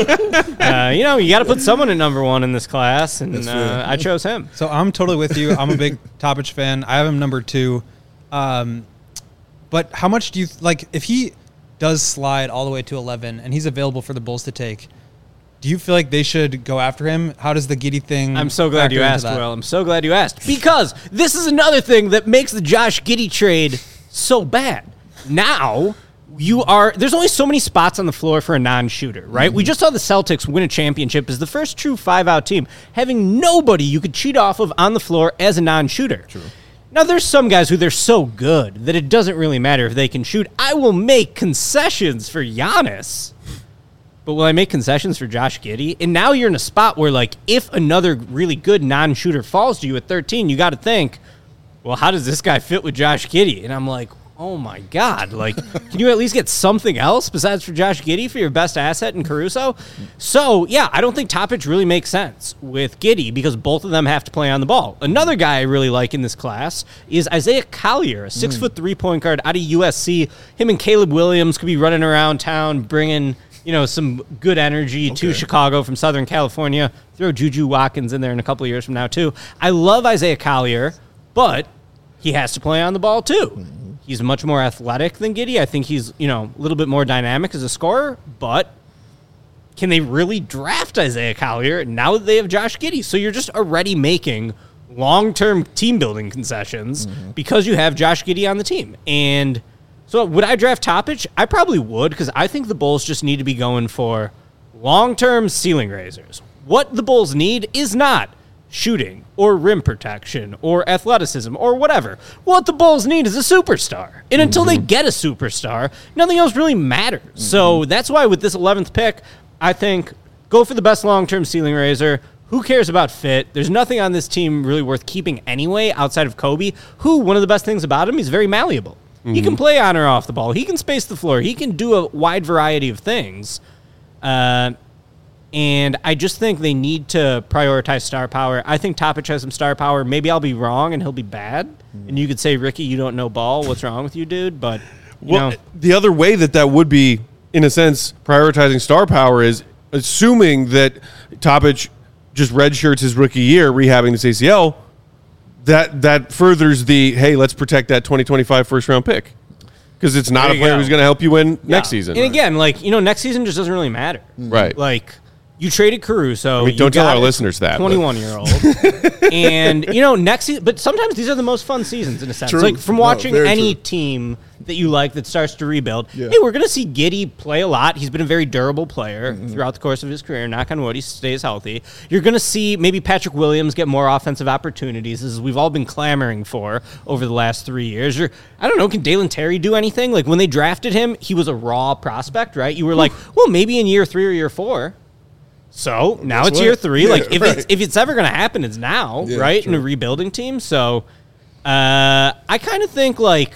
S4: But, you know, you got to put someone at number one in this class, and I chose him.
S2: So I'm totally with you. I'm a big Topic fan. I have him number 2. But how much do you like if he does slide all the way to 11 and he's available for the Bulls to take? Do you feel like they should go after him? How does the Giddey thing?
S4: I'm so glad you asked, Will. I'm so glad you asked, because this is another thing that makes the Josh Giddey trade so bad. Now there's only so many spots on the floor for a non-shooter, right? We just saw the Celtics win a championship as the first true 5-out team, having nobody you could cheat off of on the floor as a non-shooter. True. Now, there's some guys who they're so good that it doesn't really matter if they can shoot. I will make concessions for Giannis. But will I make concessions for Josh Giddey? And now you're in a spot where, like, if another really good non-shooter falls to you at 13, you got to think, well, how does this guy fit with Josh Giddey? And I'm like, oh, my God. Like, can you at least get something else besides for Josh Giddey for your best asset in Caruso? So, yeah, I don't think Topic really makes sense with Giddey because both of them have to play on the ball. Another guy I really like in this class is Isaiah Collier, a 6'3" point guard out of USC. Him and Caleb Williams could be running around town bringing, you know, some good energy to Chicago from Southern California. Throw Juju Watkins in there in a couple of years from now, too. I love Isaiah Collier, but he has to play on the ball, too. He's much more athletic than Giddey. I think he's, you know, a little bit more dynamic as a scorer, but can they really draft Isaiah Collier now that they have Josh Giddey? So you're just already making long-term team-building concessions because you have Josh Giddey on the team. And so would I draft Topic? I probably would, because I think the Bulls just need to be going for long-term ceiling raisers. What the Bulls need is not shooting or rim protection or athleticism or whatever. What the Bulls need is a superstar. And until they get a superstar, nothing else really matters. So that's why with this 11th pick, I think go for the best long-term ceiling raiser. Who cares about fit? There's nothing on this team really worth keeping anyway outside of Kobe, who, one of the best things about him, he's very malleable. He can play on or off the ball. He can space the floor. He can do a wide variety of things. And I just think they need to prioritize star power. I think Topic has some star power. Maybe I'll be wrong and he'll be bad. And you could say, Ricky, you don't know ball. What's wrong with you, dude? But, you know.
S1: The other way that would be, in a sense, prioritizing star power is assuming that Topic just redshirts his rookie year, rehabbing this ACL. That furthers the, hey, let's protect that 2025 first-round pick. Because it's not a player who's going to help you win next season.
S4: And again, like, you know, next season just doesn't really matter.
S1: Right.
S4: Like, you traded Caruso.
S1: I mean, don't tell our listeners that.
S4: 21-year-old. And, you know, next season, but sometimes these are the most fun seasons in a sense.
S3: True.
S4: Like, from watching any
S3: true.
S4: team that you like that starts to rebuild,
S3: Yeah.
S4: hey, we're going to see Giddey play a lot. He's been a very durable player throughout the course of his career. Knock on wood, he stays healthy. You're going to see maybe Patrick Williams get more offensive opportunities, as we've all been clamoring for over the last 3 years. I don't know, can Dalen Terry do anything? Like, when they drafted him, he was a raw prospect, right? You were like, well, maybe in year 3 or year 4. So now
S3: Guess
S4: it's
S3: what?
S4: year 3.
S3: Yeah,
S4: like,
S3: right.
S4: if it's ever going to happen, it's now,
S3: Yeah,
S4: right?
S3: true.
S4: In a rebuilding team. So I kind of think, like,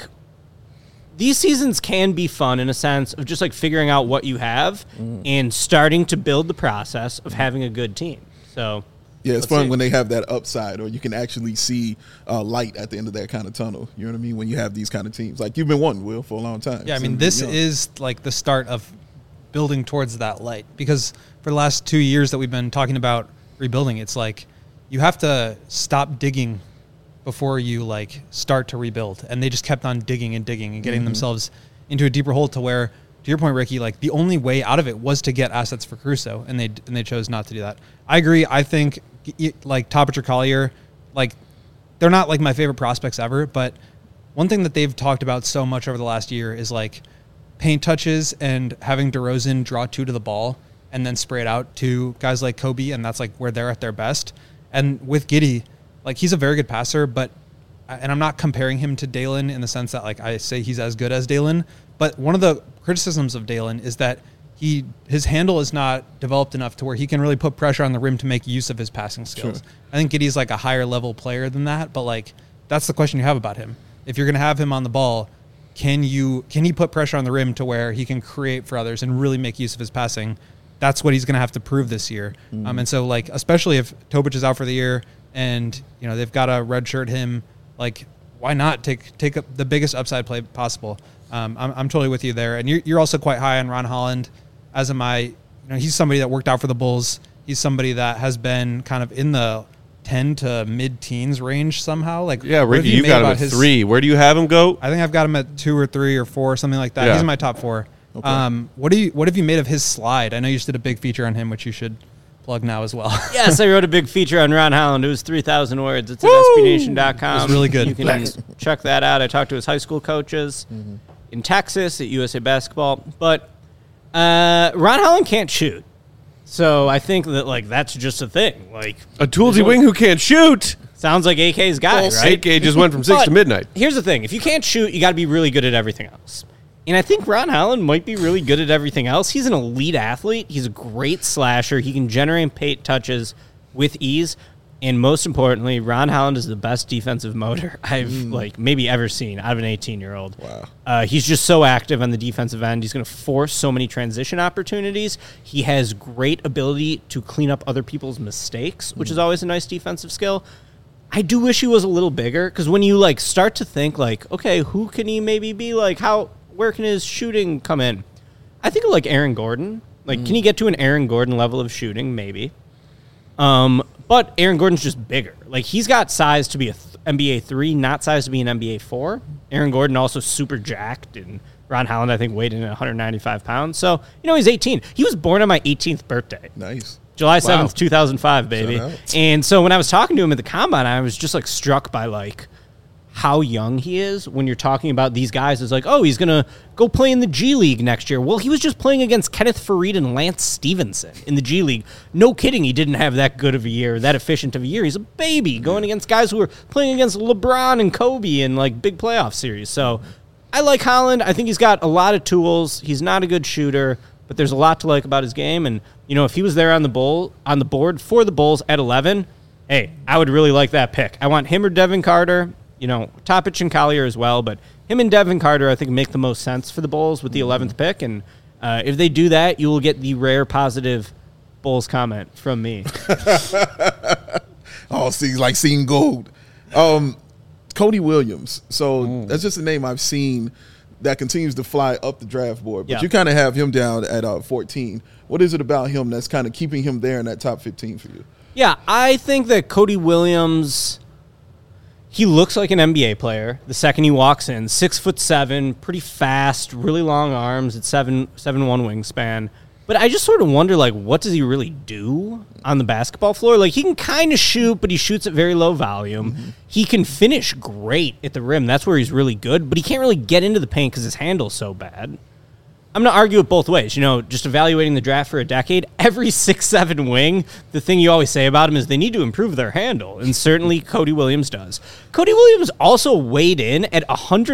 S4: these seasons can be fun in a sense of just, like, figuring out what you have and starting to build the process of having a good team. So
S3: Yeah, it's
S4: let's
S3: fun
S4: see.
S3: when they have that upside, or you can actually see light at the end of that kind of tunnel. You know what I mean? When you have these kind of teams, like you've been wanting, Will, for a long time.
S2: Yeah, I
S3: since
S2: mean,
S3: you've
S2: this
S3: been young.
S2: is like the start of building towards that light, because for the last 2 years that we've been talking about rebuilding, it's like you have to stop digging before you like start to rebuild. And they just kept on digging and digging and getting themselves into a deeper hole, to where, to your point, Ricky, like the only way out of it was to get assets for Caruso, and they chose not to do that. I agree. I think like Topic or Collier, like they're not like my favorite prospects ever, but one thing that they've talked about so much over the last year is like paint touches and having DeRozan draw 2 to the ball and then spray it out to guys like Kobe, and that's like where they're at their best. And with Giddey, like he's a very good passer, and I'm not comparing him to Dalen in the sense that like I say he's as good as Dalen, but one of the criticisms of Dalen is that his handle is not developed enough to where he can really put pressure on the rim to make use of his passing skills.
S3: Sure.
S2: I think Giddey's like a higher level player than that, but like that's the question you have about him. If you're going to have him on the ball, can he put pressure on the rim to where he can create for others and really make use of his passing? That's what he's going to have to prove this year. And so like, especially if Tobic is out for the year and, you know, they've got to redshirt him, like why not take up the biggest upside play possible? I'm totally with you there. And you're also quite high on Ron Holland, as am I. You know, he's somebody that worked out for the Bulls. He's somebody that has been kind of in the 10 to mid-teens range somehow. Like,
S1: Yeah,
S2: what have
S1: Ricky,
S2: you
S1: you've
S2: made
S1: got him
S2: about
S1: at 3. Where do you have him, Goat?
S2: I think I've got him at 2 or 3 or 4, something like that.
S1: Yeah.
S2: He's in my top 4.
S3: Okay.
S2: What have you made of his slide? I know you just did a big feature on him, which you should plug now as well.
S4: Yes, I wrote a big feature on Ron Holland. It was 3,000 words. It's at SBNation.com.
S2: It was really good.
S4: You can check that out. I talked to his high school coaches in Texas at USA Basketball. But Ron Holland can't shoot. So I think that, like, that's just a thing. Like,
S1: A toolsy wing who can't shoot.
S4: sounds like AK's guy, right?
S1: AK just went from 6
S4: But
S1: to midnight.
S4: Here's the thing. If you can't shoot, you got to be really good at everything else. And I think Ron Holland might be really good at everything else. He's an elite athlete. He's a great slasher. He can generate paint touches with ease. And most importantly, Ron Holland is the best defensive motor I've like maybe ever seen out of an 18-year-old.
S3: Wow.
S4: He's just so active on the defensive end. He's going to force so many transition opportunities. He has great ability to clean up other people's mistakes, which is always a nice defensive skill. I do wish he was a little bigger, because when you like start to think like, okay, who can he maybe be? Like, where can his shooting come in? I think of like Aaron Gordon. Like, can he get to an Aaron Gordon level of shooting? Maybe. But Aaron Gordon's just bigger. Like, he's got size to be a NBA 3, not size to be an NBA 4. Aaron Gordon also super jacked, and Ron Holland, I think, weighed in at 195 pounds. So, you know, he's 18. He was born on my 18th birthday.
S3: Nice.
S4: July 7th,
S1: Wow.
S4: 2005, baby.
S3: Shout out.
S4: And so when I was talking to him at the Combine, I was just, like, struck by, like, how young he is when you're talking about these guys. It's like, oh, he's going to go play in the G League next year. Well, he was just playing against Kenneth Faried and Lance Stevenson in the G League. No kidding, he didn't have that good of a year, that efficient of a year. He's a baby going against guys who are playing against LeBron and Kobe in, like, big playoff series. So I like Holland. I think he's got a lot of tools. He's not a good shooter, but there's a lot to like about his game. And, you know, if he was there on the board for the Bulls at 11, hey, I would really like that pick. I want him or Devin Carter. You know, Topic and Collier as well, but him and Devin Carter, I think, make the most sense for the Bulls with the 11th pick. And if they do that, you will get the rare positive Bulls comment from me.
S3: Oh, see, like seeing gold. Cody Williams. So that's just a name I've seen that continues to fly up the draft board. But
S4: Yeah.
S3: you kind of have him down at 14. What is it about him that's kind of keeping him there in that top 15 for you?
S4: Yeah, I think that Cody Williams, he looks like an NBA player the second he walks in. 6'7", pretty fast, really long arms at 7'1" wingspan. But I just sort of wonder, like, what does he really do on the basketball floor? Like, he can kind of shoot, but he shoots at very low volume. He can finish great at the rim. That's where he's really good, but he can't really get into the paint because his handle's so bad. I'm going to argue it both ways. You know, just evaluating the draft for a decade, every 6'7" wing, the thing you always say about him is they need to improve their handle, and certainly Cody Williams does. Cody Williams also weighed in at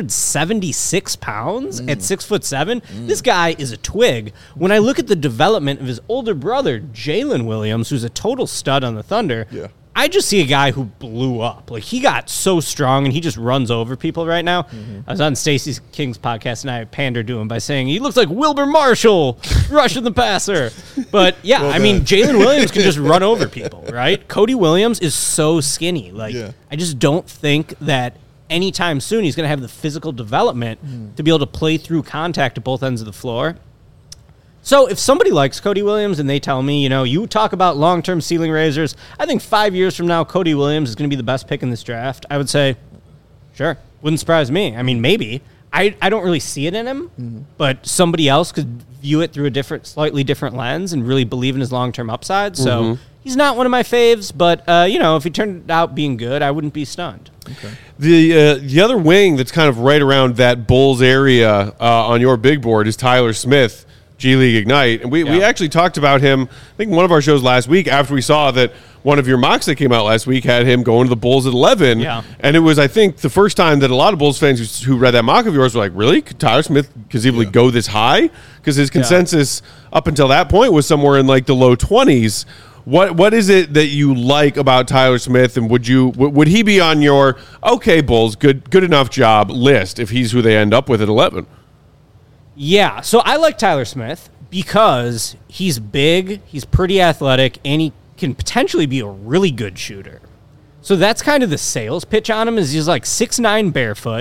S4: 176 pounds at 6'7". This guy is a twig. When I look at the development of his older brother, Jalen Williams, who's a total stud on the Thunder, I just see a guy who blew up. Like, he got so strong, and he just runs over people right now. I was on Stacey King's podcast, and I pandered to him by saying, he looks like Wilbur Marshall rushing the passer. But, yeah, I mean, Jalen Williams can just run over people, right? Cody Williams is so skinny. Like, I just don't think that anytime soon he's going to have the physical development to be able to play through contact at both ends of the floor. So if somebody likes Cody Williams and they tell me, you know, you talk about long-term ceiling raisers, I think 5 years from now, Cody Williams is going to be the best pick in this draft, I would say, sure, wouldn't surprise me. I mean, maybe. I don't really see it in him, but somebody else could view it through a slightly different lens and really believe in his long-term upside. So he's not one of my faves, but, you know, if he turned out being good, I wouldn't be stunned.
S1: Okay. The other wing that's kind of right around that Bulls area on your big board is Tyler Smith, G League Ignite. And we actually talked about him, I think, one of our shows last week after we saw that one of your mocks that came out last week had him going to the Bulls at 11. Yeah. And it was, I think, the first time that a lot of Bulls fans who read that mock of yours were like, really? Could Tyler Smith conceivably go this high? Because his consensus up until that point was somewhere in like the low 20s. What is it that you like about Tyler Smith, and would he be on your okay Bulls good enough job list if he's who they end up with at 11?
S4: Yeah, so I like Tyler Smith because he's big, he's pretty athletic, and he can potentially be a really good shooter. So that's kind of the sales pitch on him is he's like 6'9" barefoot.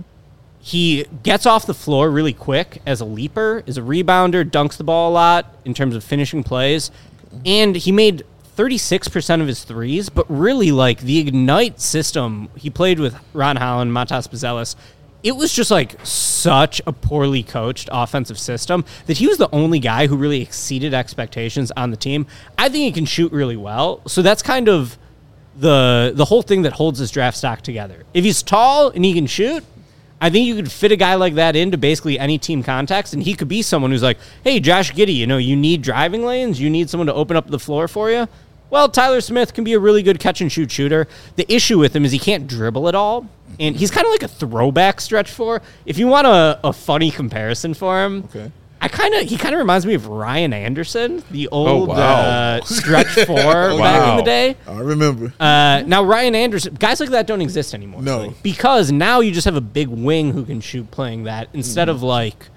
S4: He gets off the floor really quick as a leaper, is a rebounder, dunks the ball a lot in terms of finishing plays. And he made 36% of his threes, but really like the Ignite system, he played with Ron Holland, Matas Buzelis. It was just like such a poorly coached offensive system that he was the only guy who really exceeded expectations on the team. I think he can shoot really well. So that's kind of the whole thing that holds his draft stock together. If he's tall and he can shoot, I think you could fit a guy like that into basically any team context, and he could be someone who's like, hey, Josh Giddey, you know, you need driving lanes, you need someone to open up the floor for you. Well, Tyler Smith can be a really good catch-and-shoot shooter. The issue with him is he can't dribble at all, and he's kind of like a throwback stretch four. If you want a funny comparison for him, he kind of reminds me of Ryan Anderson, the old stretch four back in the day.
S3: I remember.
S4: Now, Ryan Anderson, guys like that don't exist anymore.
S3: No.
S4: Really, because now you just have a big wing who can shoot playing that instead of like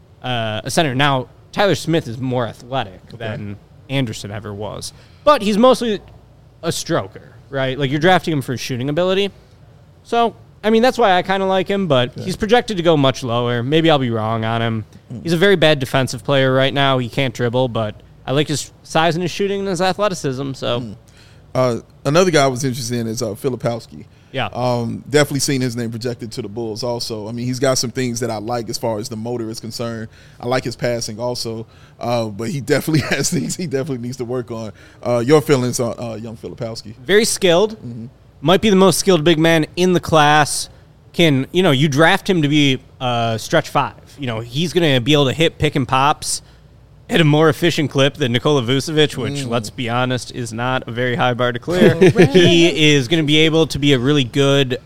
S4: a center. Now, Tyler Smith is more athletic than Anderson ever was. But he's mostly a stroker, right? Like, you're drafting him for his shooting ability. So, I mean, that's why I kind of like him, but he's projected to go much lower. Maybe I'll be wrong on him. He's a very bad defensive player right now. He can't dribble, but I like his size and his shooting and his athleticism, so.
S3: Another guy I was interested in is Filipowski.
S4: Yeah.
S3: Definitely seen his name projected to the Bulls also. I mean, he's got some things that I like as far as the motor is concerned. I like his passing also, but he definitely has things he definitely needs to work on. Your feelings on young Filipowski?
S4: Very skilled. Might be the most skilled big man in the class. You draft him to be stretch five. You know, he's going to be able to hit pick and pops at a more efficient clip than Nikola Vucevic, which, let's be honest, is not a very high bar to clear. He is going to be able to be a really good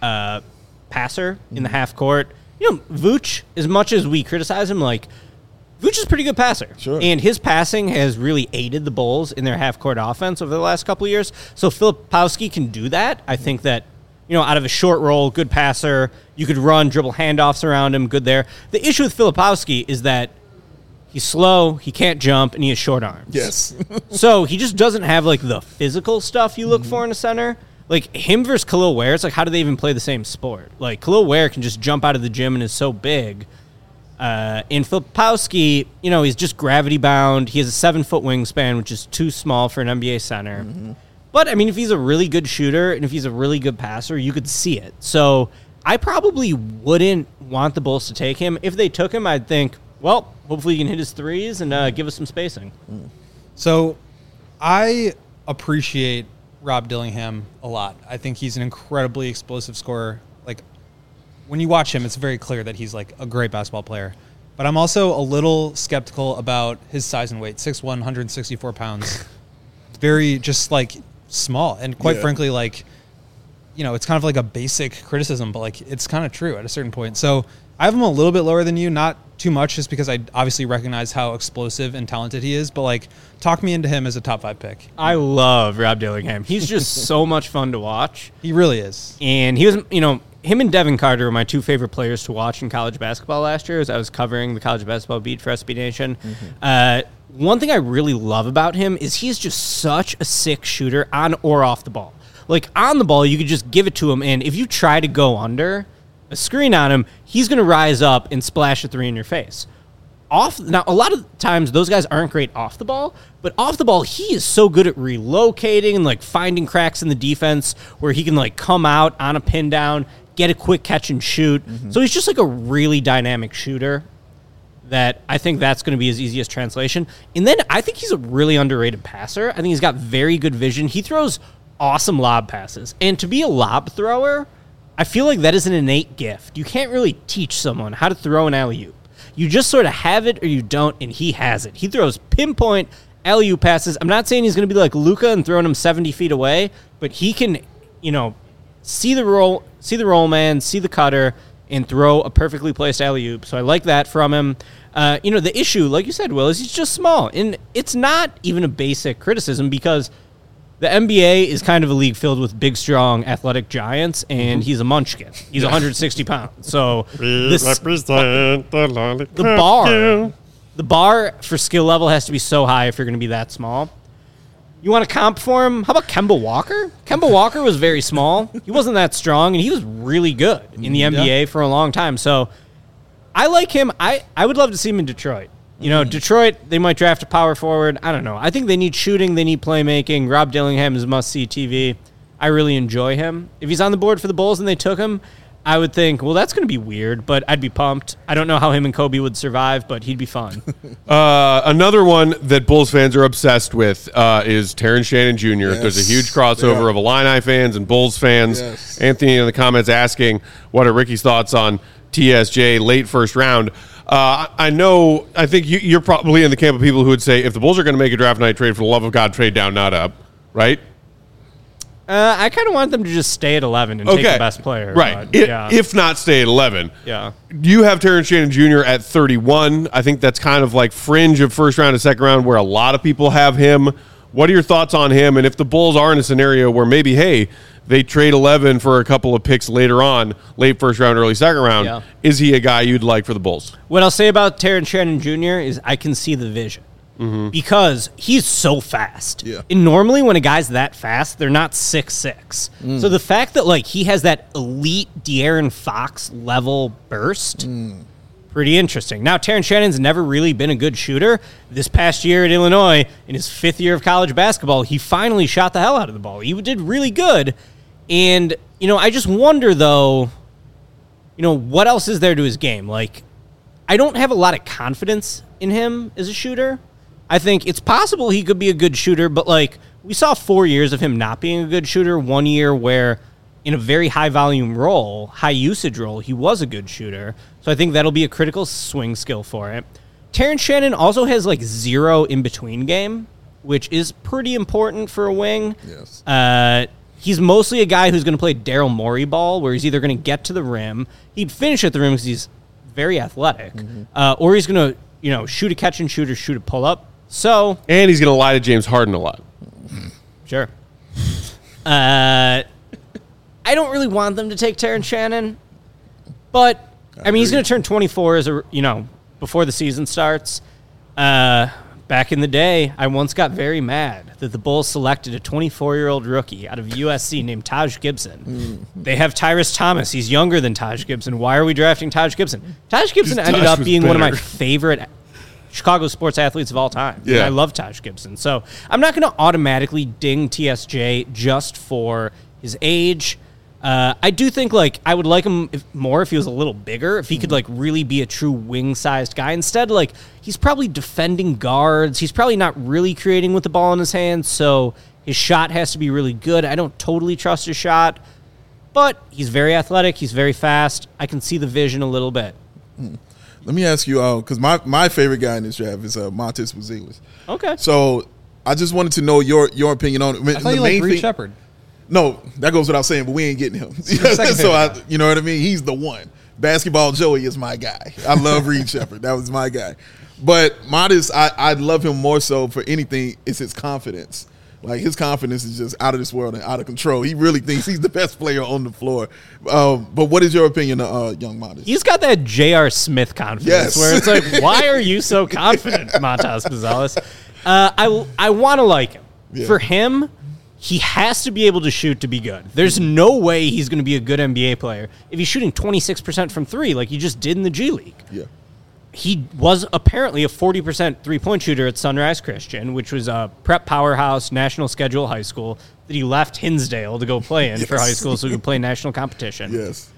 S4: passer in the half court. You know, Vooch, as much as we criticize him, like, Vooch is a pretty good passer.
S3: Sure.
S4: And his passing has really aided the Bulls in their half-court offense over the last couple of years. So Filipowski can do that. I think that, you know, out of a short roll, good passer, you could run, dribble handoffs around him, good there. The issue with Filipowski is that he's slow, he can't jump, and he has short arms.
S3: Yes.
S4: So he just doesn't have, like, the physical stuff you look for in a center. Like, him versus Khalil Ware, it's like, how do they even play the same sport? Like, Khalil Ware can just jump out of the gym and is so big. And Filipowski, you know, he's just gravity-bound. He has a 7-foot wingspan, which is too small for an NBA center. But, I mean, if he's a really good shooter and if he's a really good passer, you could see it. So I probably wouldn't want the Bulls to take him. If they took him, I'd think, Well, hopefully he can hit his threes and give us some spacing.
S2: So I appreciate Rob Dillingham a lot. I think he's an incredibly explosive scorer. Like, when you watch him, it's very clear that he's like a great basketball player. But I'm also a little skeptical about his size and weight. 6'1", 164 pounds. Very just like small. And quite frankly, like, you know, it's kind of like a basic criticism, but like it's kind of true at a certain point. So I have him a little bit lower than you, not too much, just because I obviously recognize how explosive and talented he is. But like, talk me into him as a top 5 pick.
S4: I love Rob Dillingham. He's just so much fun to watch.
S2: He really is.
S4: And he was, you know, him and Devin Carter were my 2 favorite players to watch in college basketball last year as I was covering the college basketball beat for SB Nation. One thing I really love about him is he's just such a sick shooter on or off the ball. Like, on the ball, you could just give it to him, and if you try to go under a screen on him, he's going to rise up and splash a 3 in your face. Now, a lot of times, those guys aren't great off the ball, but off the ball, he is so good at relocating and, like, finding cracks in the defense where he can, like, come out on a pin down, get a quick catch and shoot. So he's just, like, a really dynamic shooter that I think that's going to be his easiest translation. And then I think he's a really underrated passer. I think he's got very good vision. He throws awesome lob passes. And to be a lob thrower, I feel like that is an innate gift. You can't really teach someone how to throw an alley-oop. You just sort of have it or you don't, and he has it. He throws pinpoint alley-oop passes. I'm not saying he's going to be like Luka and throwing him 70 feet away, but he can, you know, see the roll man, see the cutter, and throw a perfectly placed alley-oop. So I like that from him. You know, the issue, like you said, Will, is he's just small. And it's not even a basic criticism because the NBA is kind of a league filled with big, strong, athletic giants, and he's a munchkin. He's 160 pounds. So the bar for skill level has to be so high if you're going to be that small. You want a comp for him? How about Kemba Walker? Kemba Walker was very small. He wasn't that strong, and he was really good in the NBA for a long time. So I like him. I would love to see him in Detroit. You know, Detroit, they might draft a power forward. I don't know. I think they need shooting. They need playmaking. Rob Dillingham is must-see TV. I really enjoy him. If he's on the board for the Bulls and they took him, I would think, well, that's going to be weird, but I'd be pumped. I don't know how him and Kobe would survive, but he'd be fun.
S1: Another one that Bulls fans are obsessed with is Terrence Shannon Jr.
S3: Yes.
S1: There's a huge crossover of Illini fans and Bulls fans.
S3: Yes.
S1: Anthony in the comments asking, what are Ricky's thoughts on TSJ late first round? I think you're probably in the camp of people who would say if the Bulls are going to make a draft night trade, for the love of God, trade down, not up, right?
S4: I kind of want them to just stay at 11 and take the best player.
S1: Right.
S4: But,
S1: if not stay at 11.
S4: Yeah.
S1: You have Terrence Shannon Jr. at 31. I think that's kind of like fringe of first round and second round where a lot of people have him. What are your thoughts on him? And if the Bulls are in a scenario where maybe, hey, they trade 11 for a couple of picks later on, late first round, early second round, is he a guy you'd like for the Bulls?
S4: What I'll say about Terrence Shannon Jr. is I can see the vision. Because he's so fast.
S3: Yeah.
S4: And normally when a guy's that fast, they're not 6'6". So the fact that like he has that elite De'Aaron Fox level burst, pretty interesting. Now, Terrence Shannon's never really been a good shooter. This past year at Illinois, in his 5th year of college basketball, he finally shot the hell out of the ball. He did really good. And, you know, I just wonder, though, you know, what else is there to his game? Like, I don't have a lot of confidence in him as a shooter. I think it's possible he could be a good shooter, but, like, we saw 4 years of him not being a good shooter. 1 year where, in a very high-volume role, high-usage role, he was a good shooter. So I think that'll be a critical swing skill for it. Terrence Shannon also has, like, 0 in-between game, which is pretty important for a wing.
S3: Yes.
S4: He's mostly a guy who's going to play Daryl Morey ball, where he's either going to get to the rim. He'd finish at the rim because he's very athletic. Or he's going to, you know, shoot a catch and shoot or shoot a pull-up. So,
S1: and he's going to lie to James Harden a lot.
S4: Sure. I don't really want them to take Terrence Shannon, but I mean he's going to turn 24 as a, you know, before the season starts. Back in the day, I once got very mad that the Bulls selected a 24-year-old rookie out of USC named Taj Gibson. They have Tyrese Thomas. He's younger than Taj Gibson. Why are we drafting Taj Gibson? Taj Gibson ended up being one of my favorite Chicago sports athletes of all time.
S1: Yeah.
S4: I love Taj Gibson. So I'm not going to automatically ding TSJ just for his age. I do think, like, I would like him more if he was a little bigger, if he could, like, really be a true wing-sized guy. Instead, like, he's probably defending guards. He's probably not really creating with the ball in his hands, so his shot has to be really good. I don't totally trust his shot, but he's very athletic. He's very fast. I can see the vision a little bit.
S3: Let me ask you, because my favorite guy in this draft is Montes Buzelis.
S4: Okay.
S3: So I just wanted to know your opinion on it.
S2: I thought you liked Reed Shepherd.
S3: No, that goes without saying, but we ain't getting him.
S2: Second
S3: So you know what I mean? He's the one. Basketball Joey is my guy. I love Reed Shepherd. That was my guy. But Montes, I love him more so for anything. It's his confidence. Like, his confidence is just out of this world and out of control. He really thinks he's the best player on the floor. But what is your opinion of young Montes?
S4: He's got that J.R. Smith confidence where it's like, why are you so confident, Montes Buzelis? I want to like him.
S3: Yeah.
S4: For him, he has to be able to shoot to be good. There's no way he's going to be a good NBA player if he's shooting 26% from three like you just did in the G League.
S3: Yeah.
S4: He was apparently a 40% three-point shooter at Sunrise Christian, which was a prep powerhouse, national schedule high school that he left Hinsdale to go play in for high school so he could play national competition.
S3: Yes.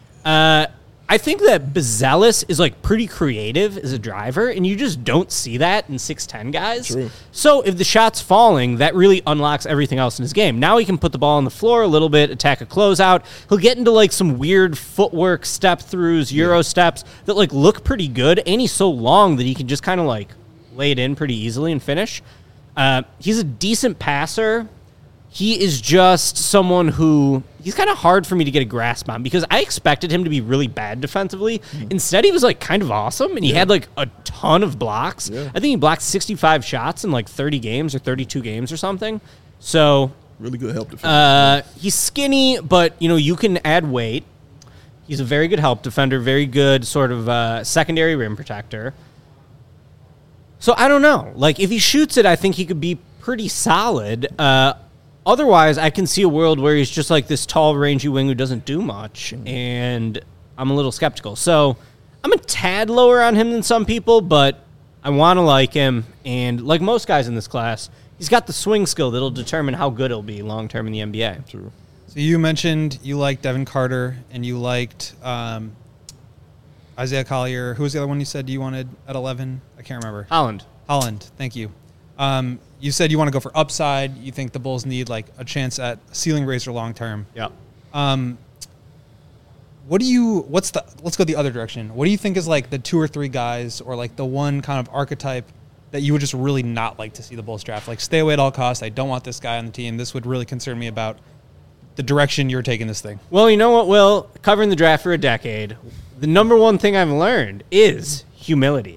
S4: I think that Buzelis is like pretty creative as a driver, and you just don't see that in 6'10 guys.
S3: True.
S4: So if the shot's falling, that really unlocks everything else in his game. Now he can put the ball on the floor a little bit, attack a closeout. He'll get into like some weird footwork step throughs, Euro steps that like look pretty good, and he's so long that he can just kind of like lay it in pretty easily and finish. He's a decent passer. He is just someone who he's kind of hard for me to get a grasp on because I expected him to be really bad defensively. Instead, he was like kind of awesome, and he had like a ton of blocks.
S3: Yeah.
S4: I think he blocked 65 shots in like 30 games or 32 games or something. So
S3: Really good help defender.
S4: he's skinny, but you can add weight. He's a very good help defender, very good sort of secondary rim protector. So I don't know. Like if he shoots it, I think he could be pretty solid. Otherwise, I can see a world where he's just like this tall, rangy wing who doesn't do much, and I'm a little skeptical. So I'm a tad lower on him than some people, but I want to like him. And like most guys in this class, he's got the swing skill that'll determine how good he'll be long-term in the NBA.
S3: True.
S2: So you mentioned you liked Devin Carter and you liked Isaiah Collier. Who was the other one you said you wanted at 11? I can't remember.
S4: Holland.
S2: Thank you. You said you want to go for upside. You think the Bulls need like a chance at ceiling raiser long term.
S4: Yep.
S2: Let's go the other direction. What do you think is like the 2 or 3 guys or like the one kind of archetype that you would just really not like to see the Bulls draft? Like, stay away at all costs. I don't want this guy on the team. This would really concern me about the direction you're taking this thing.
S4: Well, you know what, Will? Covering the draft for a decade, the number one thing I've learned is humility.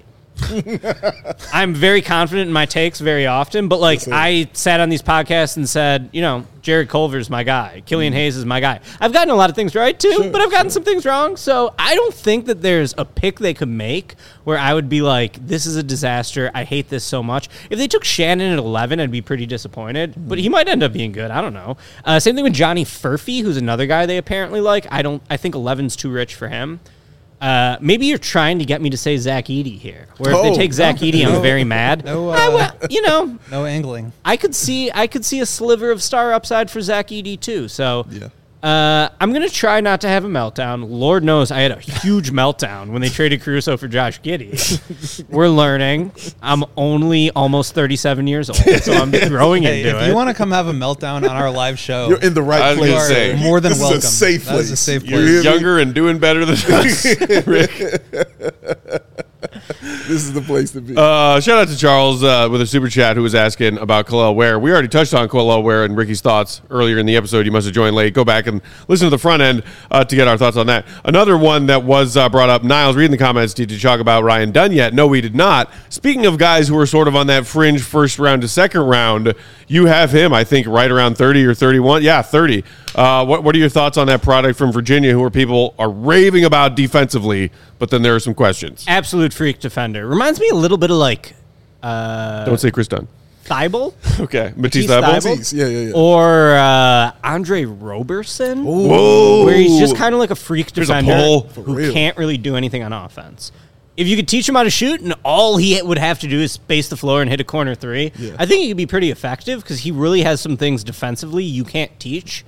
S4: I'm very confident in my takes very often, but like I sat on these podcasts and said, Jared Culver's my guy. Killian Hayes is my guy. I've gotten a lot of things right too, but I've gotten some things wrong. So I don't think that there's a pick they could make where I would be like, this is a disaster. I hate this so much. If they took Shannon at 11, I'd be pretty disappointed, but he might end up being good. I don't know. Same thing with Johnny Furphy, who's another guy they apparently like. I think 11's too rich for him. Maybe you're trying to get me to say Zach Edey here, where if they take Zach Edey, I'm very mad.
S2: No angling.
S4: I could see a sliver of star upside for Zach Edey too. So
S3: Yeah.
S4: I'm going to try not to have a meltdown. Lord knows I had a huge meltdown when they traded Caruso for Josh Giddey. We're learning. I'm only almost 37 years old, so I'm growing into
S2: If
S4: it.
S2: you want to come have a meltdown on our live show,
S3: You're in the
S1: I
S3: right
S1: was
S3: place.
S1: gonna say,
S2: you're more than
S3: This is a
S2: welcome.
S3: safe
S2: That is a
S3: place.
S2: safe
S3: You're
S2: place.
S3: hear me?
S1: Younger and doing better than us, Rick.
S3: This is the place to be.
S1: Shout out to Charles with a super chat who was asking about Kel'el Ware. We already touched on Kel'el Ware and Ricky's thoughts earlier in the episode. You must have joined late. Go back and listen to the front end to get our thoughts on that. Another one that was brought up, Niles, reading the comments, did you talk about Ryan Dunn yet? No, we did not. Speaking of guys who are sort of on that fringe first round to second round, you have him, I think, right around 30 or 31. Yeah, 30. What are your thoughts on that product from Virginia who people are raving about defensively, but then there are some questions?
S4: Absolute freak defender. Reminds me a little bit of like
S1: Don't say Chris Dunn.
S4: Thibault.
S1: Okay. Matisse
S4: Thibault?
S1: Thybulle?
S3: Matisse, yeah.
S4: Or Andre Roberson,
S1: Whoa.
S4: where he's just kind of like a freak
S1: There's a
S4: defender
S1: pull.
S4: who
S3: real.
S4: can't really do anything on offense. If you could teach him how to shoot and all he would have to do is space the floor and hit a corner three, I think he could be pretty effective because he really has some things defensively you can't teach.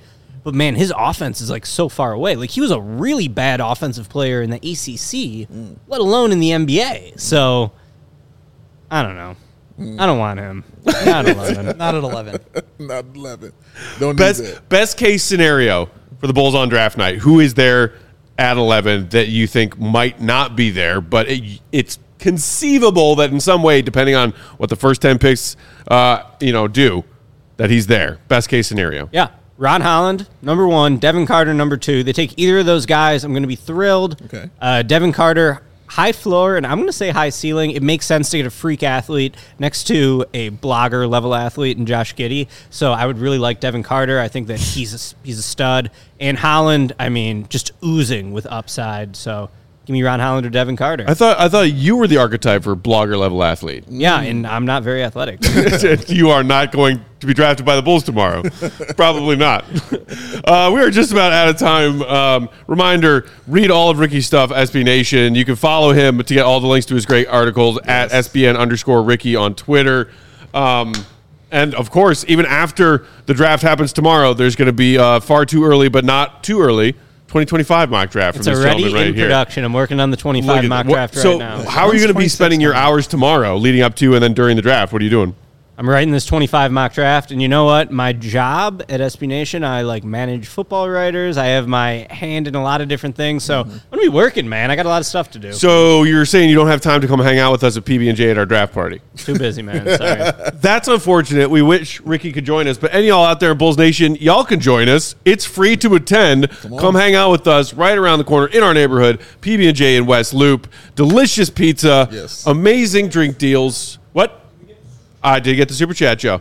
S4: But man, his offense is like so far away. Like he was a really bad offensive player in the ACC, let alone in the NBA. So I don't know. I don't want him. Not 11.
S2: Not at 11.
S3: Not 11. Don't need that.
S1: Best case scenario for the Bulls on draft night. Who is there at 11 that you think might not be there, but it's conceivable that in some way, depending on what the first 10 picks, do, that he's there. Best case scenario.
S4: Yeah. Ron Holland, number 1. Devin Carter, number 2. They take either of those guys. I'm going to be thrilled.
S3: Okay.
S4: Devin Carter, high floor, and I'm going to say high ceiling. It makes sense to get a freak athlete next to a blogger level athlete in Josh Giddey. So I would really like Devin Carter. I think that he's a stud. And Holland, I mean, just oozing with upside. So give me Ron Holland or Devin Carter.
S1: I thought you were the archetype for blogger level athlete.
S4: Yeah, and I'm not very athletic.
S1: You are not going to be drafted by the Bulls tomorrow. Probably not. We are just about out of time. Reminder, read all of Ricky's stuff, SB Nation. You can follow him to get all the links to his great articles at SBN_Ricky on Twitter. And, of course, even after the draft happens tomorrow, there's going to be far too early, but not too early, 2025 mock draft.
S4: It's
S1: from this
S4: already
S1: gentleman right
S4: in
S1: here.
S4: production. I'm working on the 25 mock draft
S1: So
S4: right now.
S1: how are you going to be spending your hours tomorrow leading up to and then during the draft? What are you doing?
S4: I'm writing this 25 mock draft, and you know what? My job at SB Nation, I manage football writers. I have my hand in a lot of different things, so I'm gonna be working, man. I got a lot of stuff to do.
S1: So you're saying you don't have time to come hang out with us at PB&J at our draft party?
S4: Too busy, man. Sorry.
S1: That's unfortunate. We wish Ricky could join us, but any of y'all out there in Bulls Nation, y'all can join us. It's free to attend. Come hang out with us right around the corner in our neighborhood, PB&J in West Loop. Delicious pizza, amazing drink deals. What? I did get the Super Chat, Joe.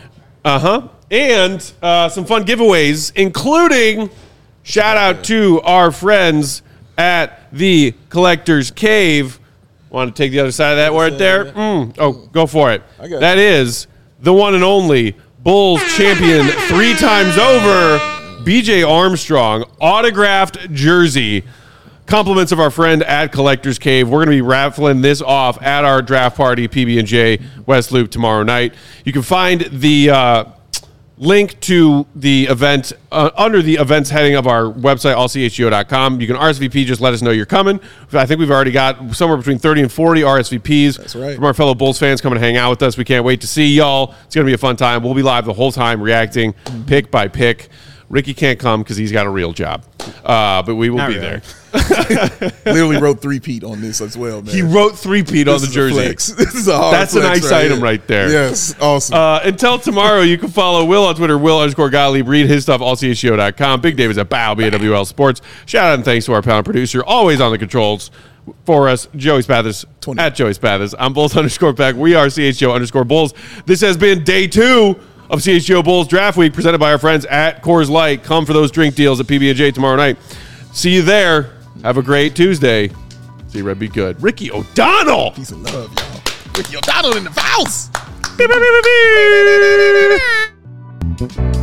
S1: And some fun giveaways, including shout out to our friends at the Collector's Cave. Want to take the other side of that word there? Oh, go for it. That is the one and only Bulls champion 3 times over, BJ Armstrong, autographed jersey. Compliments of our friend at Collector's Cave. We're going to be raffling this off at our draft party, PB&J West Loop, tomorrow night. You can find the link to the event under the events heading of our website, allchgo.com. You can RSVP, just let us know you're coming. I think we've already got somewhere between 30 and 40 RSVPs from our fellow Bulls fans coming to hang out with us. We can't wait to see y'all. It's going to be a fun time. We'll be live the whole time reacting pick by pick. Ricky can't come because he's got a real job, but we will be there.
S3: Literally wrote 3-peat on this as well, man.
S1: He wrote 3-peat on the jersey.
S3: This is a hard
S1: That's a nice item right there.
S3: Yes, awesome.
S1: Until tomorrow, you can follow Will on Twitter, Will_Gottlieb. Read his stuff, allchgo.com. Big David's at BOW, BAWL Sports. Shout out and thanks to our panel producer, always on the controls for us, Joey Spathis, at Joey Spathis. I'm Bulls_Pack. We are CHGO_Bulls. This has been day 2 of CHGO Bulls Draft Week, presented by our friends at Coors Light. Come for those drink deals at PB&J tomorrow night. See you there. Have a great Tuesday. See Red be good. Ricky O'Donnell.
S3: Peace and love, y'all. Ricky O'Donnell in the house.